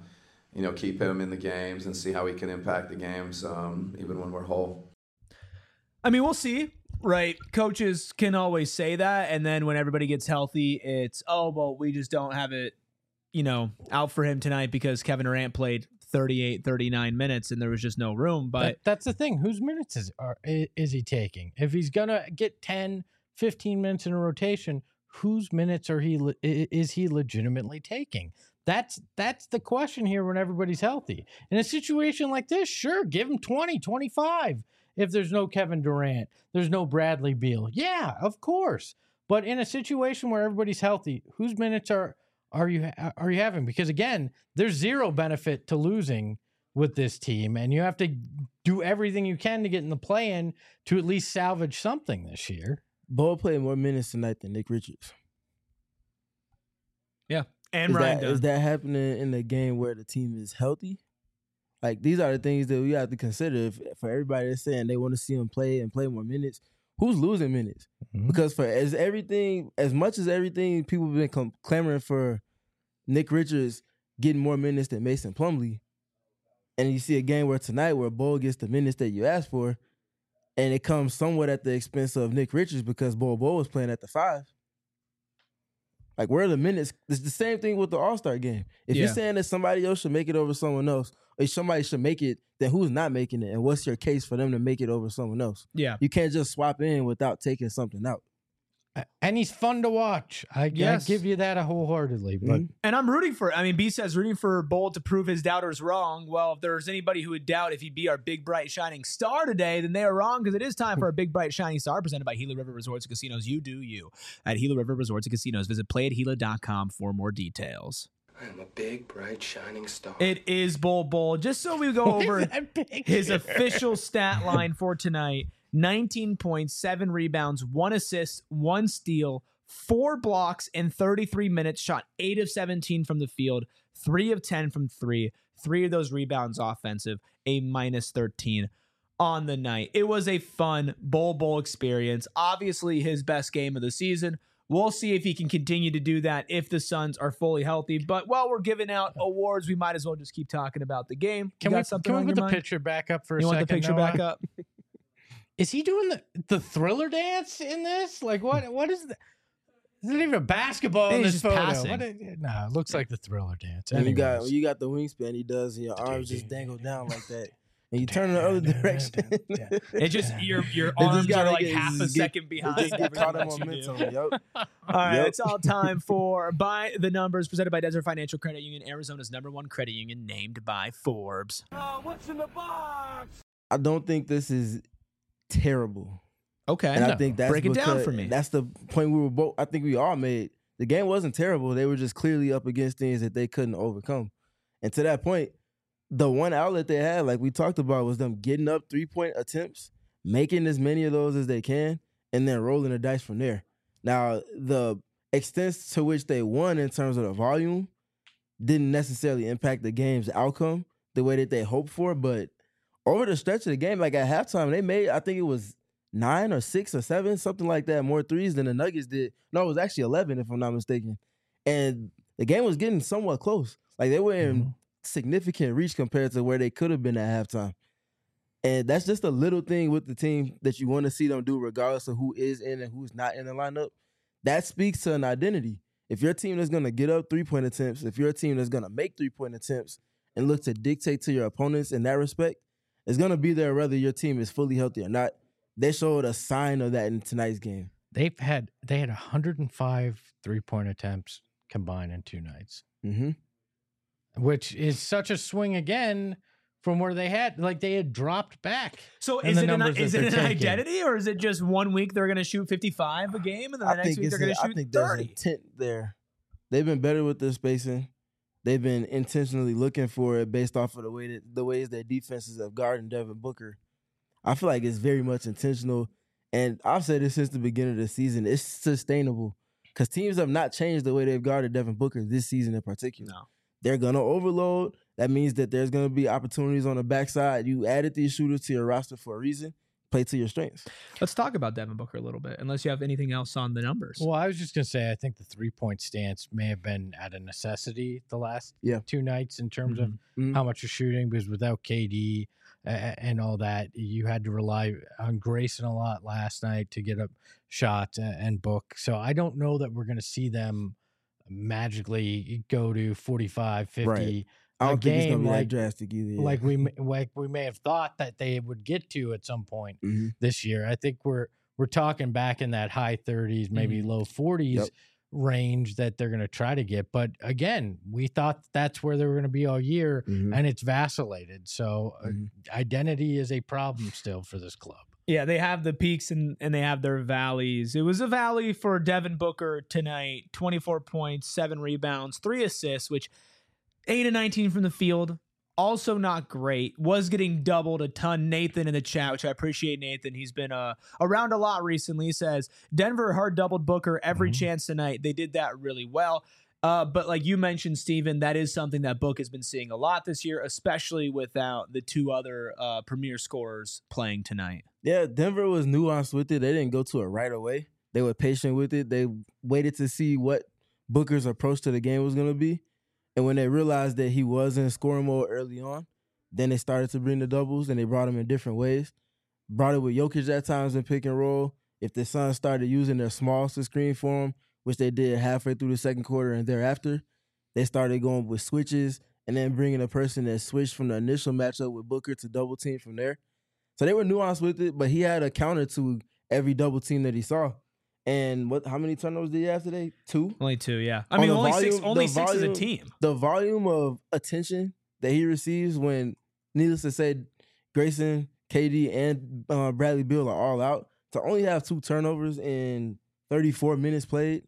keep him in the games and see how he can impact the games, even when we're whole. I mean, we'll see, right? Coaches can always say that, and then when everybody gets healthy, it's we just don't have it, out for him tonight because Kevin Durant played 38, 39 minutes and there was just no room. But that's the thing. Whose minutes is he taking? If he's going to get 10, 15 minutes in a rotation, whose minutes is he legitimately taking? That's the question here when everybody's healthy. In a situation like this, sure, give him 20, 25. If there's no Kevin Durant, there's no Bradley Beal. Yeah, of course. But in a situation where everybody's healthy, whose minutes are you having? Because again, there's zero benefit to losing with this team, and you have to do everything you can to get in the play-in to at least salvage something this year. Bull played more minutes tonight than Nick Richards. Yeah, and Ryan Dunn. Is that happening in the game where the team is healthy? Like, these are the things that we have to consider. For everybody that's saying they want to see him play and play more minutes, who's losing minutes? Mm-hmm. Because as much as everything people have been clamoring for Nick Richards getting more minutes than Mason Plumlee, and you see a game where tonight where Bull gets the minutes that you asked for, and it comes somewhat at the expense of Nick Richards because Bull was playing at the 5. Like, where are the minutes? It's the same thing with the All-Star game. If you're saying that somebody else should make it over someone else, or somebody should make it, then who's not making it? And what's your case for them to make it over someone else? Yeah. You can't just swap in without taking something out. And he's fun to watch. I give you that wholeheartedly. But and I'm rooting for, B says rooting for Bull to prove his doubters wrong. Well, if there's anybody who would doubt if he'd be our big, bright, shining star today, then they are wrong, because it is time for a big, bright, shining star presented by Gila River Resorts and Casinos. You do you. At Gila River Resorts and Casinos. Visit playatgila.com for more details. I'm a big, bright, shining star. It is Bull. Just so we go over his official stat line for tonight. 19 points, 7 rebounds, 1 assist, 1 steal, 4 blocks in 33 minutes, shot 8 of 17 from the field, 3 of 10 from 3, 3 of those rebounds offensive, a -13 on the night. It was a fun Bull experience. Obviously his best game of the season We'll see if he can continue to do that if the Suns are fully healthy. But while we're giving out awards, we might as well just keep talking about the game. Can we put the picture back up for a second? You want the picture back up? Is he doing the Thriller dance in this? Like what is that? Isn't even a basketball in this photo. No, it looks like the Thriller dance. And you got the wingspan he does, and your arms just dangle down like that. And you turn in the other direction. It just your arms are like half a second behind. Just get caught in momentum. Yep. All right, it's all time for By the Numbers, presented by Desert Financial Credit Union, Arizona's #1 credit union, named by Forbes. What's in the box? I don't think this is terrible. Okay, and I think that's break it down for me. That's the point we were both. I think we all made. The game wasn't terrible. They were just clearly up against things that they couldn't overcome. And to that point, the one outlet they had, like we talked about, was them getting up 3-point attempts, making as many of those as they can, and then rolling the dice from there. Now, the extent to which they won in terms of the volume didn't necessarily impact the game's outcome the way that they hoped for, but over the stretch of the game, like at halftime, they made, I think it was 9 or 6 or 7, something like that, more threes than the Nuggets did. No, it was actually 11, if I'm not mistaken. And the game was getting somewhat close. Like they were in significant reach compared to where they could have been at halftime. And that's just a little thing with the team that you want to see them do regardless of who is in and who's not in the lineup. That speaks to an identity. If your team is going to get up 3-point attempts, if you're a team that's going to make 3-point attempts and look to dictate to your opponents in that respect, it's going to be there whether your team is fully healthy or not. They showed a sign of that in tonight's game. They had 105 3-point attempts combined in 2 nights. Mm-hmm. Which is such a swing again from where they had dropped back. So is it an identity, or is it just 1 week they're going to shoot 55 a game, and then the next week they're going to shoot 30? I think there's intent there. They've been better with their spacing. They've been intentionally looking for it based off of the ways their defenses have guarded Devin Booker. I feel like it's very much intentional, and I've said this since the beginning of the season. It's sustainable because teams have not changed the way they've guarded Devin Booker this season in particular. No. They're going to overload. That means that there's going to be opportunities on the backside. You added these shooters to your roster for a reason. Play to your strengths. Let's talk about Devin Booker a little bit, unless you have anything else on the numbers. Well, I was just going to say, I think the 3-point stance may have been at a necessity the last 2 nights in terms of how much you're shooting, because without KD and all that, you had to rely on Grayson a lot last night to get up shots and Book. So I don't know that we're going to see them magically go to 45, 50. Right. I don't think it's going to be that drastic either. Yeah. Like we may have thought that they would get to at some point this year. I think we're talking back in that high 30s, maybe low 40s range that they're going to try to get. But again, we thought that's where they were going to be all year, and it's vacillated. So identity is a problem still for this club. Yeah, they have the peaks and they have their valleys. It was a valley for Devin Booker tonight. 24 points, 7 rebounds, 3 assists, which 8 of 19 from the field. Also not great. Was getting doubled a ton. Nathan in the chat, which I appreciate, Nathan. He's been around a lot recently. He says, Denver hard doubled Booker every chance tonight. They did that really well. But like you mentioned, Steven, that is something that Book has been seeing a lot this year, especially without the 2 other premier scorers playing tonight. Yeah, Denver was nuanced with it. They didn't go to it right away. They were patient with it. They waited to see what Booker's approach to the game was going to be. And when they realized that he was in scoring mode early on, then they started to bring the doubles, and they brought him in different ways. Brought it with Jokic at times in pick and roll. If the Suns started using their smalls to screen for him, which they did halfway through the second quarter and thereafter, they started going with switches and then bringing a person that switched from the initial matchup with Booker to double team from there. So they were nuanced with it, but he had a counter to every double team that he saw. And how many turnovers did he have today? 2? Only 2, yeah. I mean, only six as a team. The volume of attention that he receives when, needless to say, Grayson, KD, and Bradley Beal are all out, to only have 2 turnovers in 34 minutes played,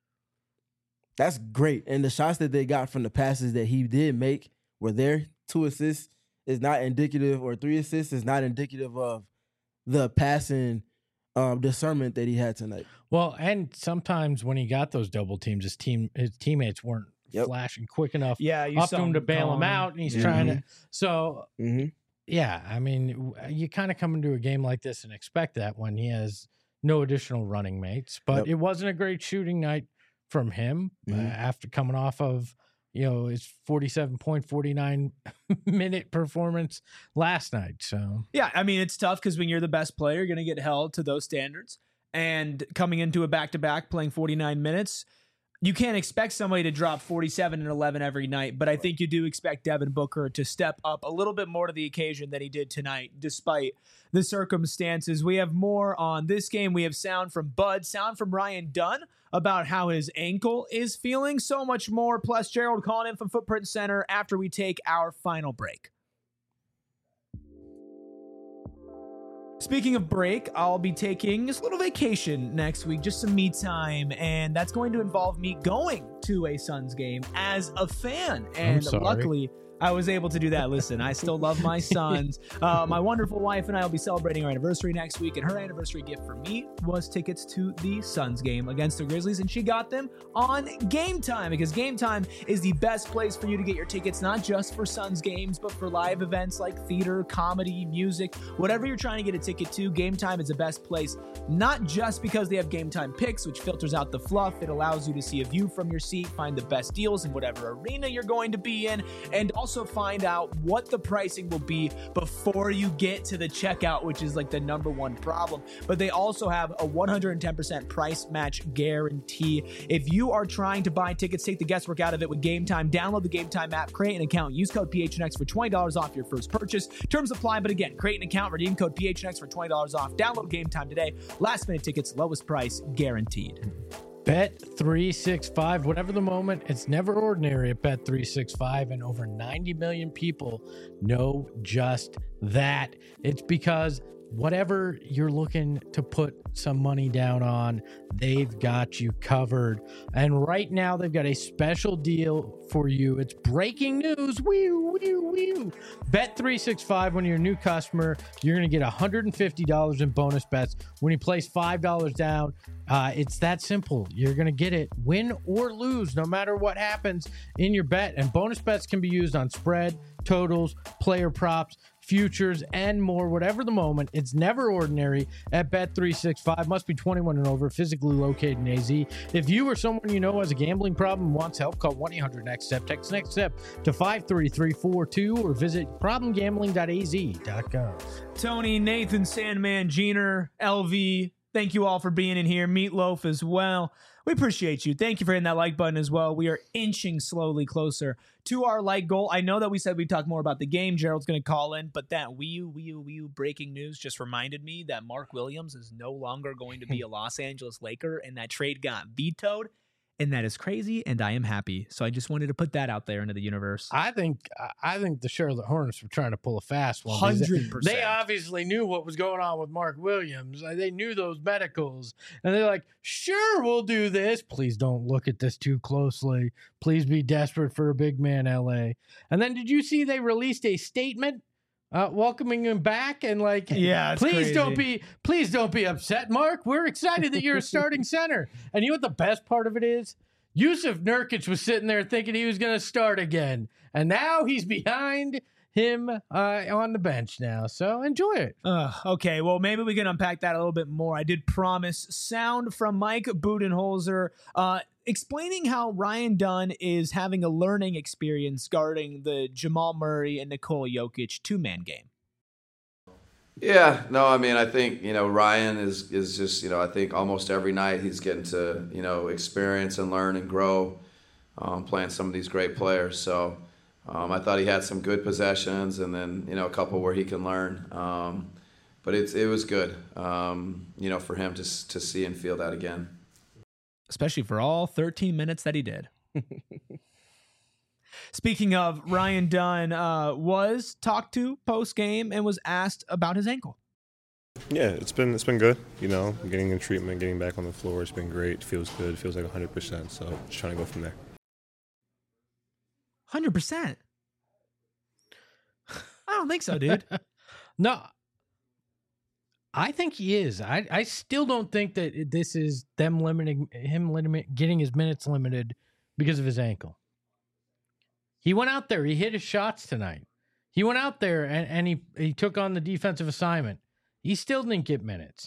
that's great. And the shots that they got from the passes that he did make were there. 2 assists is not indicative, or 3 assists is not indicative of the passing discernment that he had tonight. Well, and sometimes when he got those double teams, his teammates weren't flashing quick enough up to him to bail him out, and he's trying to. So, yeah, I mean, you kind of come into a game like this and expect that when he has no additional running mates. But it wasn't a great shooting night from him after coming off of, his 47.49 minute performance last night. So yeah, I mean, it's tough because when you're the best player, you're going to get held to those standards. And coming into a back-to-back playing 49 minutes, you can't expect somebody to drop 47 and 11 every night, but I think you do expect Devin Booker to step up a little bit more to the occasion than he did tonight, despite the circumstances. We have more on this game. We have sound from Bud, sound from Ryan Dunn about how his ankle is feeling, so much more. Plus, Gerald calling in from Footprint Center after we take our final break. Speaking of break, I'll be taking just a little vacation next week, just some me time, and that's going to involve me going to a Suns game as a fan. And luckily, I was able to do that. Listen, I still love my Suns. My wonderful wife and I will be celebrating our anniversary next week, and her anniversary gift for me was tickets to the Suns game against the Grizzlies, and she got them on Game Time, because Game Time is the best place for you to get your tickets, not just for Suns games, but for live events like theater, comedy, music, whatever you're trying to get a ticket to. Game Time is the best place, not just because they have Game Time Picks, which filters out the fluff. It allows you to see a view from your seat, find the best deals in whatever arena you're going to be in, and also find out what the pricing will be before you get to the checkout, which is like the number one problem. But they also have a 110% price match guarantee. If you are trying to buy tickets, take the guesswork out of it with Game Time. Download the Game Time app, create an account, use code PHNX for $20 off your first purchase. Terms apply, but again, create an account, redeem code PHNX for $20 off. Download Game Time today. Last minute tickets, lowest price guaranteed. Bet365, whatever the moment, it's never ordinary at Bet365, and over 90 million people know just that. It's because whatever you're looking to put some money down on, they've got you covered. And right now, they've got a special deal for you. It's breaking news. Bet365, when you're a new customer, you're going to get $150 in bonus bets when you place $5 down. It's that simple. You're going to get it, win or lose, no matter what happens in your bet. And bonus bets can be used on spread, totals, player props, futures, and more. Whatever the moment, it's never ordinary at Bet365. Must be 21 and over, physically located in AZ. If you or someone you know has a gambling problem and wants help, call 1-800-NEXT-STEP. Text NEXT STEP to 53342 or visit problemgambling.az.gov. Tony, Nathan, Sandman, Jeaner, LV, thank you all for being in here. Meatloaf as well. We appreciate you. Thank you for hitting that like button as well. We are inching slowly closer to our like goal. I know that we said we'd talk more about the game. Gerald's going to call in, but that Wii U breaking news just reminded me that Mark Williams is no longer going to be a Los Angeles Laker, and that trade got vetoed. And that is crazy, and I am happy. So I just wanted to put that out there into the universe. I think the Charlotte Hornets were trying to pull a fast one. 100%. They obviously knew what was going on with Mark Williams. They knew those medicals. And they're like, sure, we'll do this. Please don't look at this too closely. Please be desperate for a big man, LA. And then did you see they released a statement welcoming him back and like, yeah, please don't be upset, Mark. We're excited that you're a starting center. And you know what the best part of it is? Yusuf Nurkic was sitting there thinking he was going to start again, and now he's behind him on the bench now. So enjoy it. Okay, well, maybe we can unpack that a little bit more. I did promise sound from Mike Budenholzer explaining how Ryan Dunn is having a learning experience guarding the Jamal Murray and Nikola Jokic two-man game. Yeah, no, I mean, I think, Ryan is just, I think almost every night he's getting to, experience and learn and grow playing some of these great players. So I thought he had some good possessions and then, a couple where he can learn. But it was good, for him to see and feel that again. Especially for all 13 minutes that he did. Speaking of, Ryan Dunn was talked to post-game and was asked about his ankle. Yeah, it's been good. Getting in treatment, getting back on the floor, it's been great. Feels good. Feels like 100%. So just trying to go from there. 100%. I don't think so, dude. No, I think he is. I still don't think that this is them getting his minutes limited because of his ankle. He went out there. He hit his shots tonight. He went out there and he took on the defensive assignment. He still didn't get minutes.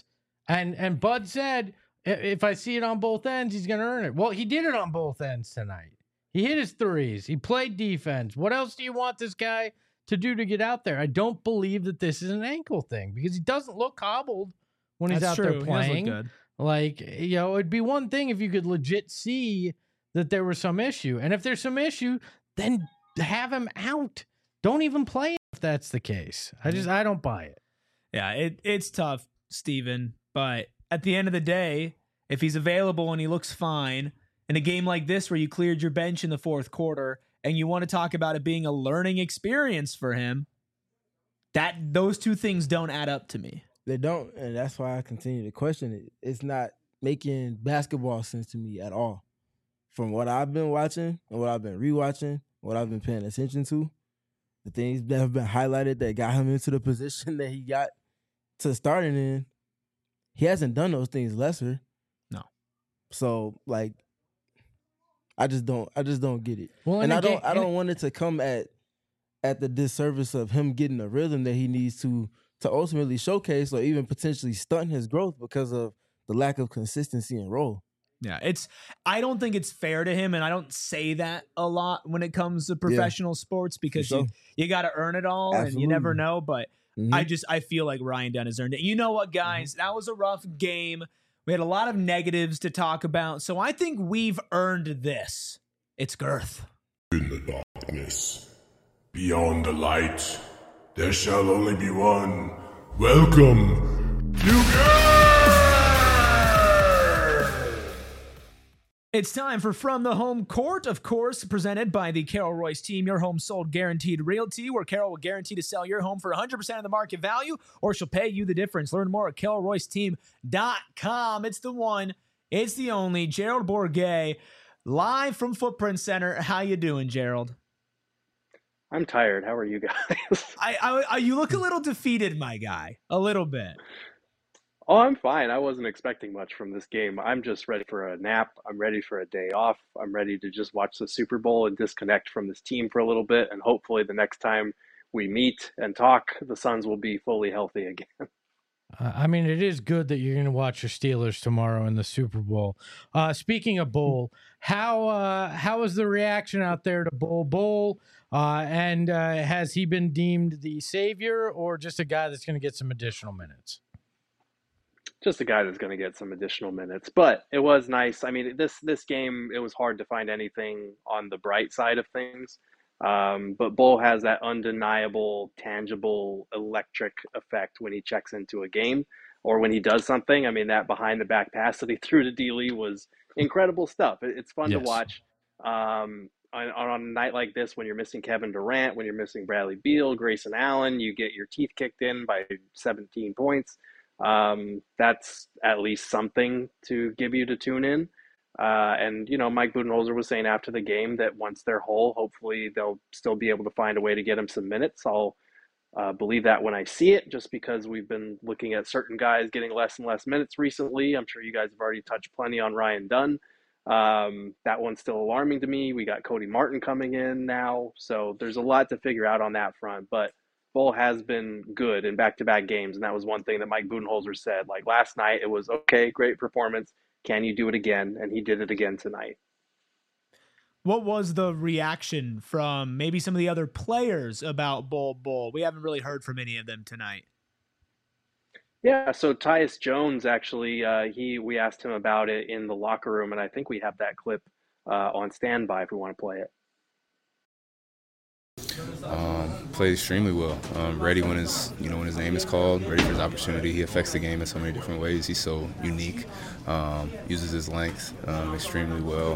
And Bud said, if I see it on both ends, he's going to earn it. Well, he did it on both ends tonight. He hit his threes. He played defense. What else do you want this guy to do to get out there? I don't believe that this is an ankle thing because he doesn't look hobbled when he's out there playing. He does look good. Like, it'd be one thing if you could legit see that there was some issue. And if there's some issue, then have him out. Don't even play him if that's the case. I don't buy it. Yeah, it's tough, Steven. But at the end of the day, if he's available and he looks fine in a game like this where you cleared your bench in the fourth quarter and you want to talk about it being a learning experience for him, those two things don't add up to me. They don't, and that's why I continue to question it. It's not making basketball sense to me at all. From what I've been watching and what I've been rewatching, what I've been paying attention to, the things that have been highlighted that got him into the position that he got to starting in, he hasn't done those things lesser. No. So like, I just don't get it. Well, and I don't want it to come at the disservice of him getting the rhythm that he needs to ultimately showcase or even potentially stunt his growth because of the lack of consistency and role. Yeah, I don't think it's fair to him, and I don't say that a lot when it comes to professional sports because you got to earn it all. Absolutely. And you never know, but I feel like Ryan Dunn has earned it. You know what, guys? That was a rough game. We had a lot of negatives to talk about, so I think we've earned this. It's girth. In the darkness, beyond the light, there shall only be one. Welcome to It's time for From the Home Court, of course, presented by the Carol Royce team, your home sold guaranteed realty, where Carol will guarantee to sell your home for 100% of the market value, or she'll pay you the difference. Learn more at carolroyceteam.com. It's the one, it's the only, Gerald Bourguet, live from Footprint Center. How you doing, Gerald? I'm tired. How are you guys? You look a little defeated, my guy. A little bit. Oh, I'm fine. I wasn't expecting much from this game. I'm just ready for a nap. I'm ready for a day off. I'm ready to just watch the Super Bowl and disconnect from this team for a little bit. And hopefully the next time we meet and talk, the Suns will be fully healthy again. I mean, it is good that you're going to watch your Steelers tomorrow in the Super Bowl. Speaking of Bull, how is the reaction out there to Bull? And has he been deemed the savior or just a guy that's going to get some additional minutes? Just a guy that's going to get some additional minutes, but it was nice. I mean, this game, it was hard to find anything on the bright side of things. But Bull has that undeniable, tangible, electric effect when he checks into a game or when he does something. I mean, that behind the back pass that he threw to D-Lee was incredible stuff. It's fun to watch. On a night like this, when you're missing Kevin Durant, when you're missing Bradley Beal, Grayson Allen, you get your teeth kicked in by 17 points. That's at least something to give you to tune in. And, you know, Mike Budenholzer was saying after the game that once they're whole, hopefully they'll still be able to find a way to get him some minutes. I'll believe that when I see it, just because we've been looking at certain guys getting less and less minutes recently. I'm sure you guys have already touched plenty on Ryan Dunn. That one's still alarming to me. We got Cody Martin coming in now. So there's a lot to figure out on that front. But Bull has been good in back-to-back games, and that was one thing that Mike Budenholzer said. Like last night, it was, okay, great performance. Can you do it again? And he did it again tonight. What was the reaction from maybe some of the other players about Bull? We haven't really heard from any of them tonight. Yeah, so Tyus Jones, actually, we asked him about it in the locker room, and I think we have that clip on standby if we want to play it. Played extremely well. Ready when his name is called. Ready for his opportunity. He affects the game in so many different ways. He's so unique. Uses his length extremely well.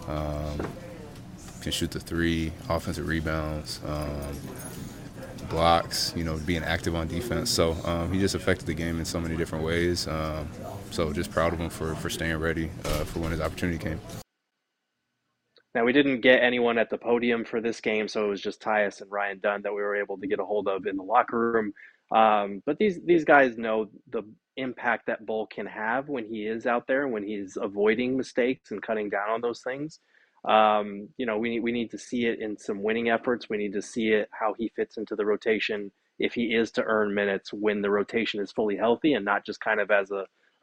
Can shoot the three. Offensive rebounds. Blocks. Being active on defense. So he just affected the game in so many different ways. So just proud of him for staying ready for when his opportunity came. Now, we didn't get anyone at the podium for this game, so it was just Tyus and Ryan Dunn that we were able to get a hold of in the locker room. But these guys know the impact that Bull can have when he is out there, when he's avoiding mistakes and cutting down on those things. We need to see it in some winning efforts. We need to see it how he fits into the rotation if he is to earn minutes when the rotation is fully healthy and not just kind of as a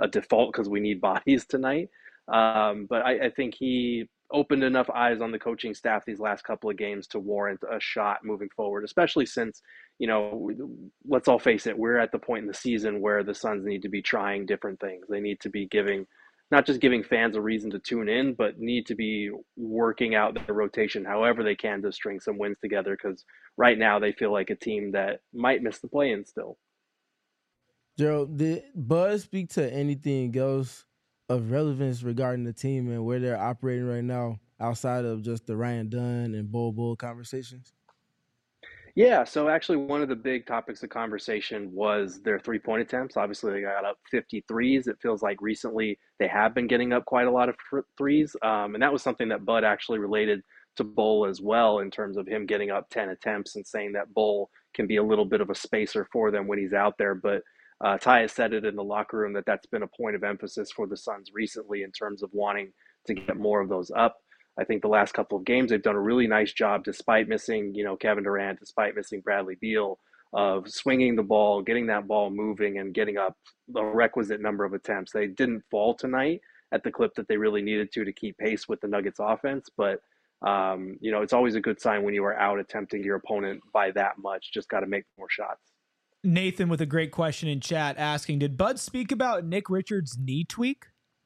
a default because we need bodies tonight. But I think he opened enough eyes on the coaching staff these last couple of games to warrant a shot moving forward, especially since, let's all face it, we're at the point in the season where the Suns need to be trying different things. They need to be not just giving fans a reason to tune in, but need to be working out the rotation however they can to string some wins together, because right now they feel like a team that might miss the play-in still. Gerald, did Bud speak to anything else of relevance regarding the team and where they're operating right now outside of just the Ryan Dunn and Bull conversations? Yeah, so actually one of the big topics of conversation was their three-point attempts. Obviously, they got up 53s. It feels like recently they have been getting up quite a lot of threes. And that was something that Bud actually related to Bull as well, in terms of him getting up 10 attempts and saying that Bull can be a little bit of a spacer for them when he's out there. But Ty has said it in the locker room that that's been a point of emphasis for the Suns recently in terms of wanting to get more of those up. I think the last couple of games, they've done a really nice job, despite missing, Kevin Durant, despite missing Bradley Beal, of swinging the ball, getting that ball moving, and getting up the requisite number of attempts. They didn't fall tonight at the clip that they really needed to keep pace with the Nuggets offense. But, it's always a good sign when you are out attempting your opponent by that much. Just got to make more shots. Nathan with a great question in chat asking, did Bud speak about Nick Richards' knee tweak?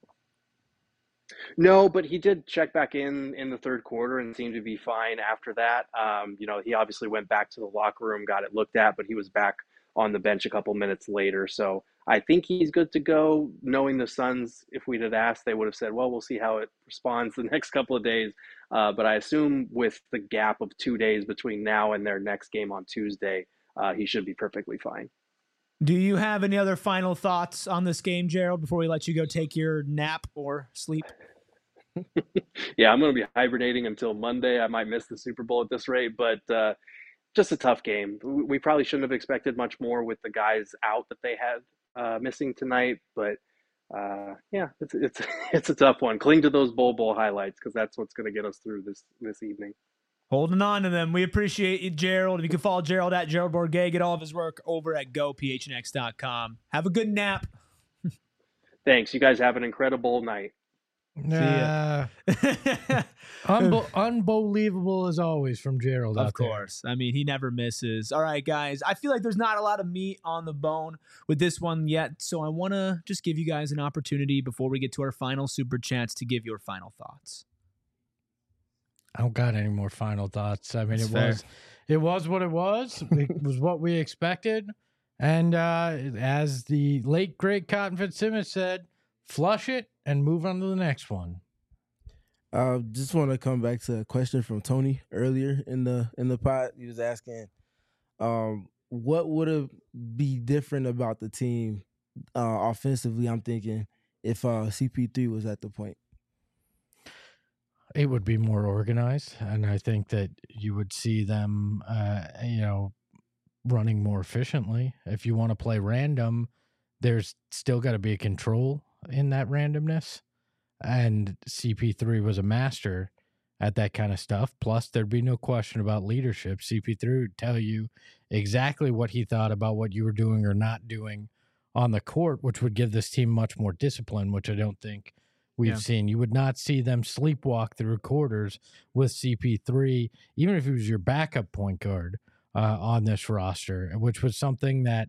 No, but he did check back in the third quarter and seemed to be fine after that. He obviously went back to the locker room, got it looked at, but he was back on the bench a couple minutes later. So I think he's good to go. Knowing the Suns, if we'd have asked, they would have said, well, we'll see how it responds the next couple of days. But I assume with the gap of 2 days between now and their next game on Tuesday, he should be perfectly fine. Do you have any other final thoughts on this game, Gerald, before we let you go take your nap or sleep? Yeah, I'm going to be hibernating until Monday. I might miss the Super Bowl at this rate, but just a tough game. We probably shouldn't have expected much more with the guys out that they had missing tonight. But it's a tough one. Cling to those bowl highlights, because that's what's going to get us through this evening. Holding on to them. We appreciate you, Gerald. If you can follow Gerald at Gerald Bourguet, get all of his work over at gophnx.com. Have a good nap. Thanks. You guys have an incredible night. Unbelievable as always from Gerald. Of course. I mean, he never misses. All right, guys. I feel like there's not a lot of meat on the bone with this one yet, so I want to just give you guys an opportunity before we get to our final super chats to give your final thoughts. I don't got any more final thoughts. I mean, it was what it was. It was what we expected. And as the late, great Cotton Fitzsimmons said, flush it and move on to the next one. Just want to come back to a question from Tony earlier in the pod. He was asking, what would have be different about the team offensively, I'm thinking, if CP3 was at the point? It would be more organized, and I think that you would see them, running more efficiently. If you want to play random, there's still got to be a control in that randomness, and CP3 was a master at that kind of stuff. Plus, there'd be no question about leadership. CP3 would tell you exactly what he thought about what you were doing or not doing on the court, which would give this team much more discipline, which I don't think we've seen. You would not see them sleepwalk through quarters with CP3, even if he was your backup point guard on this roster, which was something that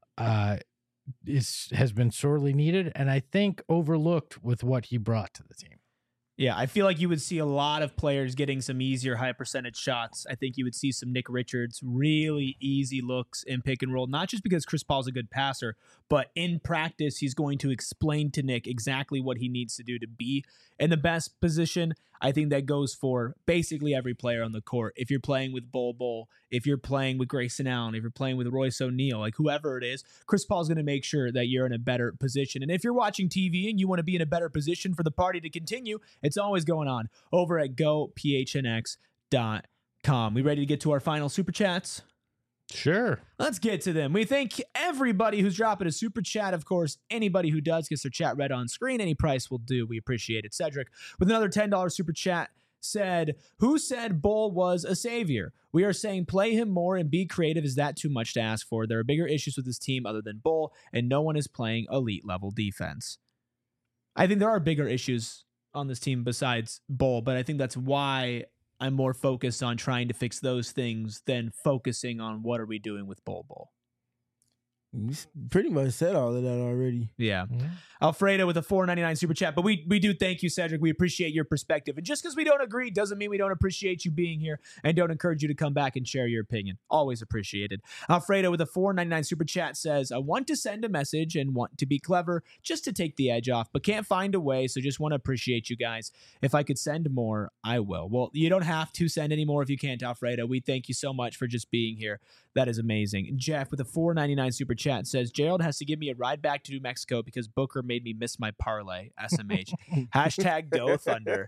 has been sorely needed and I think overlooked with what he brought to the team. Yeah, I feel like you would see a lot of players getting some easier high percentage shots. I think you would see some Nick Richards really easy looks in pick and roll, not just because Chris Paul's a good passer, but in practice, he's going to explain to Nick exactly what he needs to do to be in the best position. I think that goes for basically every player on the court. If you're playing with Bol, if you're playing with Grayson Allen, if you're playing with Royce O'Neal, like whoever it is, Chris Paul's going to make sure that you're in a better position. And if you're watching TV and you want to be in a better position for the party to continue, it's always going on over at gophnx.com. We ready to get to our final super chats? Sure. Let's get to them. We thank everybody who's dropping a super chat. Of course, anybody who does gets their chat read on screen. Any price will do. We appreciate it. Cedric with another $10 super chat said, who said Bull was a savior? We are saying play him more and be creative. Is that too much to ask for? There are bigger issues with this team other than Bull, and no one is playing elite level defense. I think there are bigger issues on this team besides Bull, but I think that's why I'm more focused on trying to fix those things than focusing on what are we doing with Bull. You pretty much said all of that already. Yeah. Alfredo with a $4.99 super chat. But we do thank you, Cedric. We appreciate your perspective. And just because we don't agree doesn't mean we don't appreciate you being here and don't encourage you to come back and share your opinion. Always appreciated. Alfredo with a $4.99 super chat says, I want to send a message and want to be clever just to take the edge off, but can't find a way. So just want to appreciate you guys. If I could send more, I will. Well, you don't have to send any more if you can't, Alfredo. We thank you so much for just being here. That is amazing. Jeff with a $4.99 super chat says, Gerald has to give me a ride back to New Mexico because Booker made me miss my parlay. SMH. Hashtag Go Thunder.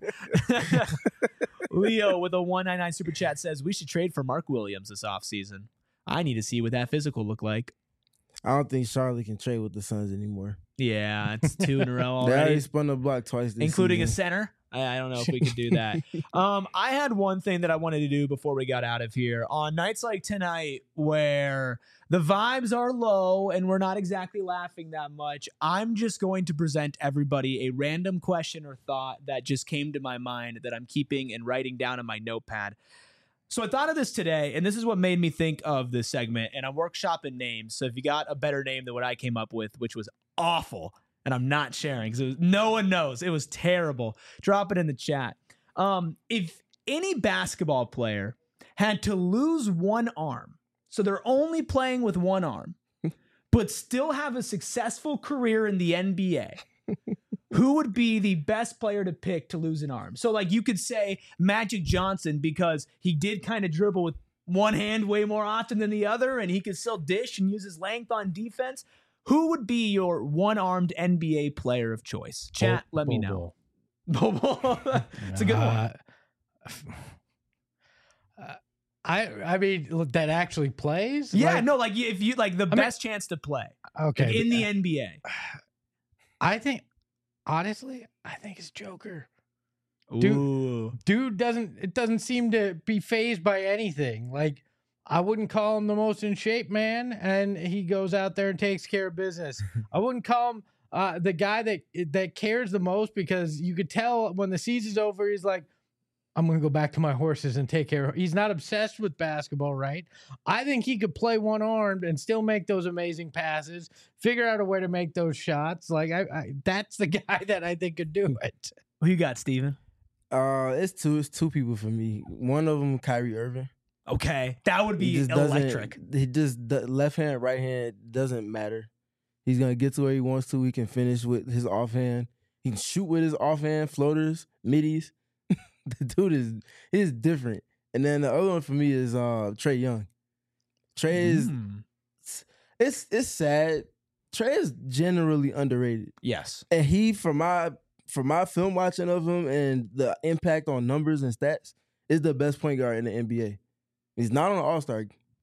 Leo with a $1.99 super chat says, we should trade for Mark Williams this offseason. I need to see what that physical look like. I don't think Charlotte can trade with the Suns anymore. Yeah, it's 2 in a row already. They already spun the block twice this including season. A center. I don't know if we could do that. I had one thing that I wanted to do before we got out of here. On nights like tonight where the vibes are low and we're not exactly laughing that much, I'm just going to present everybody a random question or thought that just came to my mind that I'm keeping and writing down in my notepad. So I thought of this today, and this is what made me think of this segment, and I'm workshopping names. So if you got a better name than what I came up with, which was awful, and I'm not sharing because no one knows. It was terrible. Drop it in the chat. If any basketball player had to lose one arm, so they're only playing with one arm, but still have a successful career in the NBA, who would be the best player to pick to lose an arm? So like you could say Magic Johnson because he did kind of dribble with one hand way more often than the other, and he could still dish and use his length on defense. Who would be your one-armed NBA player of choice? Chat, let me know. Bobo. It's a good one. I mean, that actually plays? Yeah, no, like if you like the best chance to play. Okay. Like in the NBA. I think, honestly, I think it's Joker. Ooh. Dude doesn't seem to be fazed by anything. Like, I wouldn't call him the most in shape man, and he goes out there and takes care of business. I wouldn't call him the guy that cares the most, because you could tell when the season's over, he's like, I'm going to go back to my horses and take care of. He's not obsessed with basketball, right? I think he could play one-armed and still make those amazing passes, figure out a way to make those shots. Like, that's the guy that I think could do it. Who you got, Steven? It's two people for me. One of them, Kyrie Irving. Okay, that would be electric. The left hand, right hand doesn't matter. He's gonna get to where he wants to. He can finish with his offhand. He can shoot with his offhand, floaters, middies. The dude is different. And then the other one for me is Trae Young. Trae is it's sad. Trae is generally underrated. Yes, and he from my film watching of him and the impact on numbers and stats is the best point guard in the NBA. He's not on the All-Star.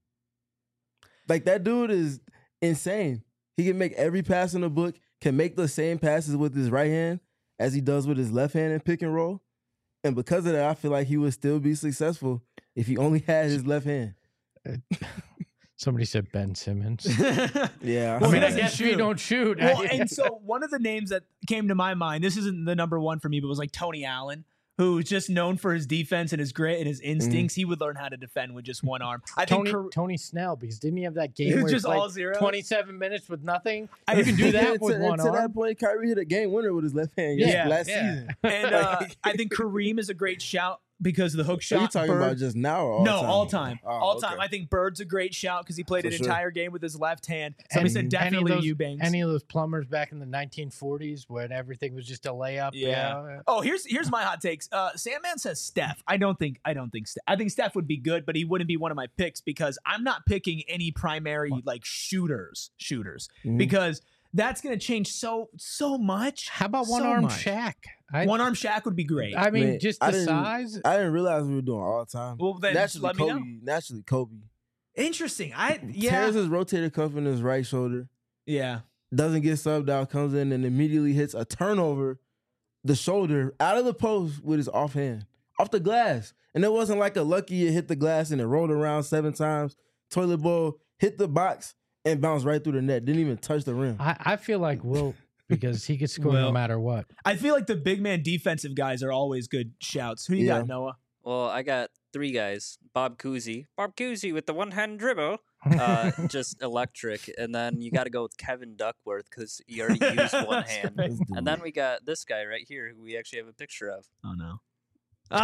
Like, that dude is insane. He can make every pass in the book, can make the same passes with his right hand as he does with his left hand in pick and roll. And because of that, I feel like he would still be successful if he only had his left hand. Somebody said Ben Simmons. Yeah. Well, I mean, I guess we don't shoot. Well, and so one of the names that came to my mind, this isn't the number one for me, but was like Tony Allen, who's just known for his defense and his grit and his instincts. He would learn how to defend with just one arm. I think Tony Snell, because didn't he have that game was where just he played all zeros? 27 minutes with nothing? You can do that with one arm. To that point, Kyrie hit a game winner with his left hand last season. And I think Kareem is a great shout because of the hook shot. Are you talking about just now or all time? All time. Oh, all time. I think Bird's a great shout because he played an entire game with his left hand. Somebody said definitely Eubanks. Any of those plumbers back in the 1940s when everything was just a layup. Yeah. Oh, here's my hot takes. Sandman says Steph. I think Steph. I think Steph would be good, but he wouldn't be one of my picks because I'm not picking any primary like shooters because that's going to change so much. How about one-arm Shaq? One-arm Shaq would be great. I mean, just the size. I didn't realize we were doing all the time. Well, then let me know. Naturally, Kobe. Interesting. Tears his rotator cuff in his right shoulder. Yeah. Doesn't get subbed out, comes in and immediately hits a turnover, the shoulder, out of the post with his offhand. off the glass. And it wasn't like a lucky it hit the glass and it rolled around 7 times. Toilet bowl hit the box and bounced right through the net. Didn't even touch the rim. I feel like Wilt, because he could score no matter what. I feel like the big man defensive guys are always good shouts. Who you got, Noah? Well, I got 3 guys. Bob Cousy with the one-hand dribble. Just electric. And then you got to go with Kevin Duckworth because he already used one hand. And then we got this guy right here who we actually have a picture of. Oh, no. Oh,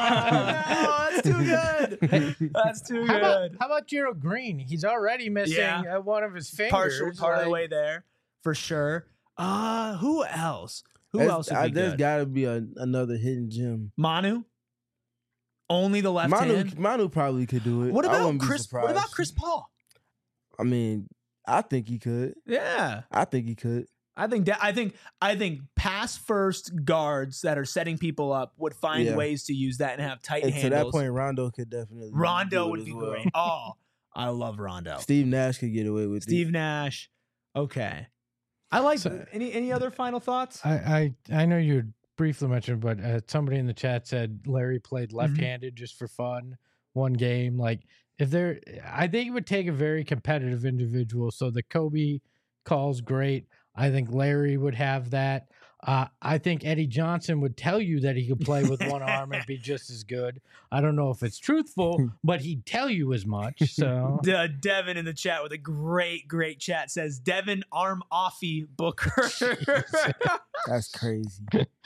no, that's too good. That's too good. How about Gerald Green? He's already missing one of his fingers. Part of the way there, for sure. Who else? Else would be There's good? got to be another hidden gem. Manu? Only the left hand? Manu probably could do it. What about Chris Paul? I mean, I think he could. Yeah. I think he could. I think pass first guards that are setting people up would find ways to use that and have tight handles. To that point, Rondo could definitely. Rondo would be great. Oh, I love Rondo. Steve Nash could get away with it. Steve Nash. Okay. I like any other final thoughts? I know you briefly mentioned, but somebody in the chat said Larry played left-handed just for fun, one game. Like I think it would take a very competitive individual. So the Kobe call's great. I think Larry would have that. I think Eddie Johnson would tell you that he could play with one arm and be just as good. I don't know if it's truthful, but he'd tell you as much. So Devin in the chat with a great chat says Devin arm offy Booker. That's crazy.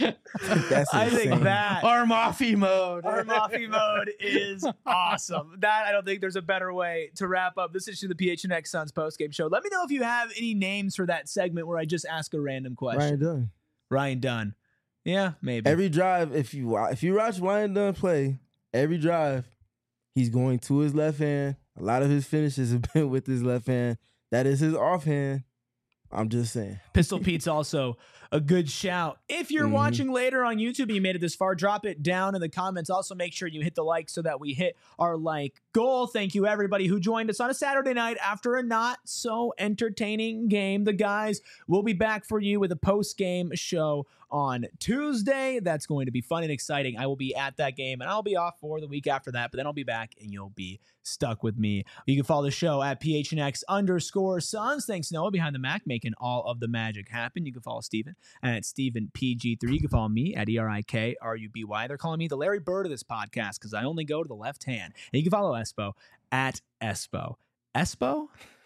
I think that arm offy mode is awesome. That I don't think there's a better way to wrap up this issue of the PHNX Suns postgame show. Let me know if you have any names for that segment where I just ask a random question. Ryan Dunn. Yeah, maybe. Every drive, if you watch Ryan Dunn play, every drive, he's going to his left hand. A lot of his finishes have been with his left hand. That is his offhand. I'm just saying. Pistol Pete's also a good shout. If you're watching later on YouTube and you made it this far, drop it down in the comments. Also, make sure you hit the like so that we hit our like goal. Thank you, everybody who joined us on a Saturday night after a not so entertaining game. The guys will be back for you with a post-game show on Tuesday. That's going to be fun and exciting. I will be at that game, and I'll be off for the week after that, but then I'll be back, and you'll be stuck with me. You can follow the show at PHNX_Suns. Thanks, Noah, behind the Mac, making all of the magic happen. You can follow Steven at StevenPG3. You can follow me at ERIKRUBY. They're calling me the Larry Bird of this podcast because I only go to the left hand. And you can follow Espo at Espo. Espo?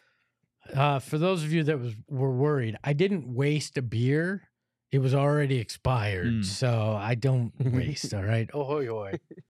For those of you that were worried, I didn't waste a beer. It was already expired, so I don't waste, all right? Oh, hoi, hoi.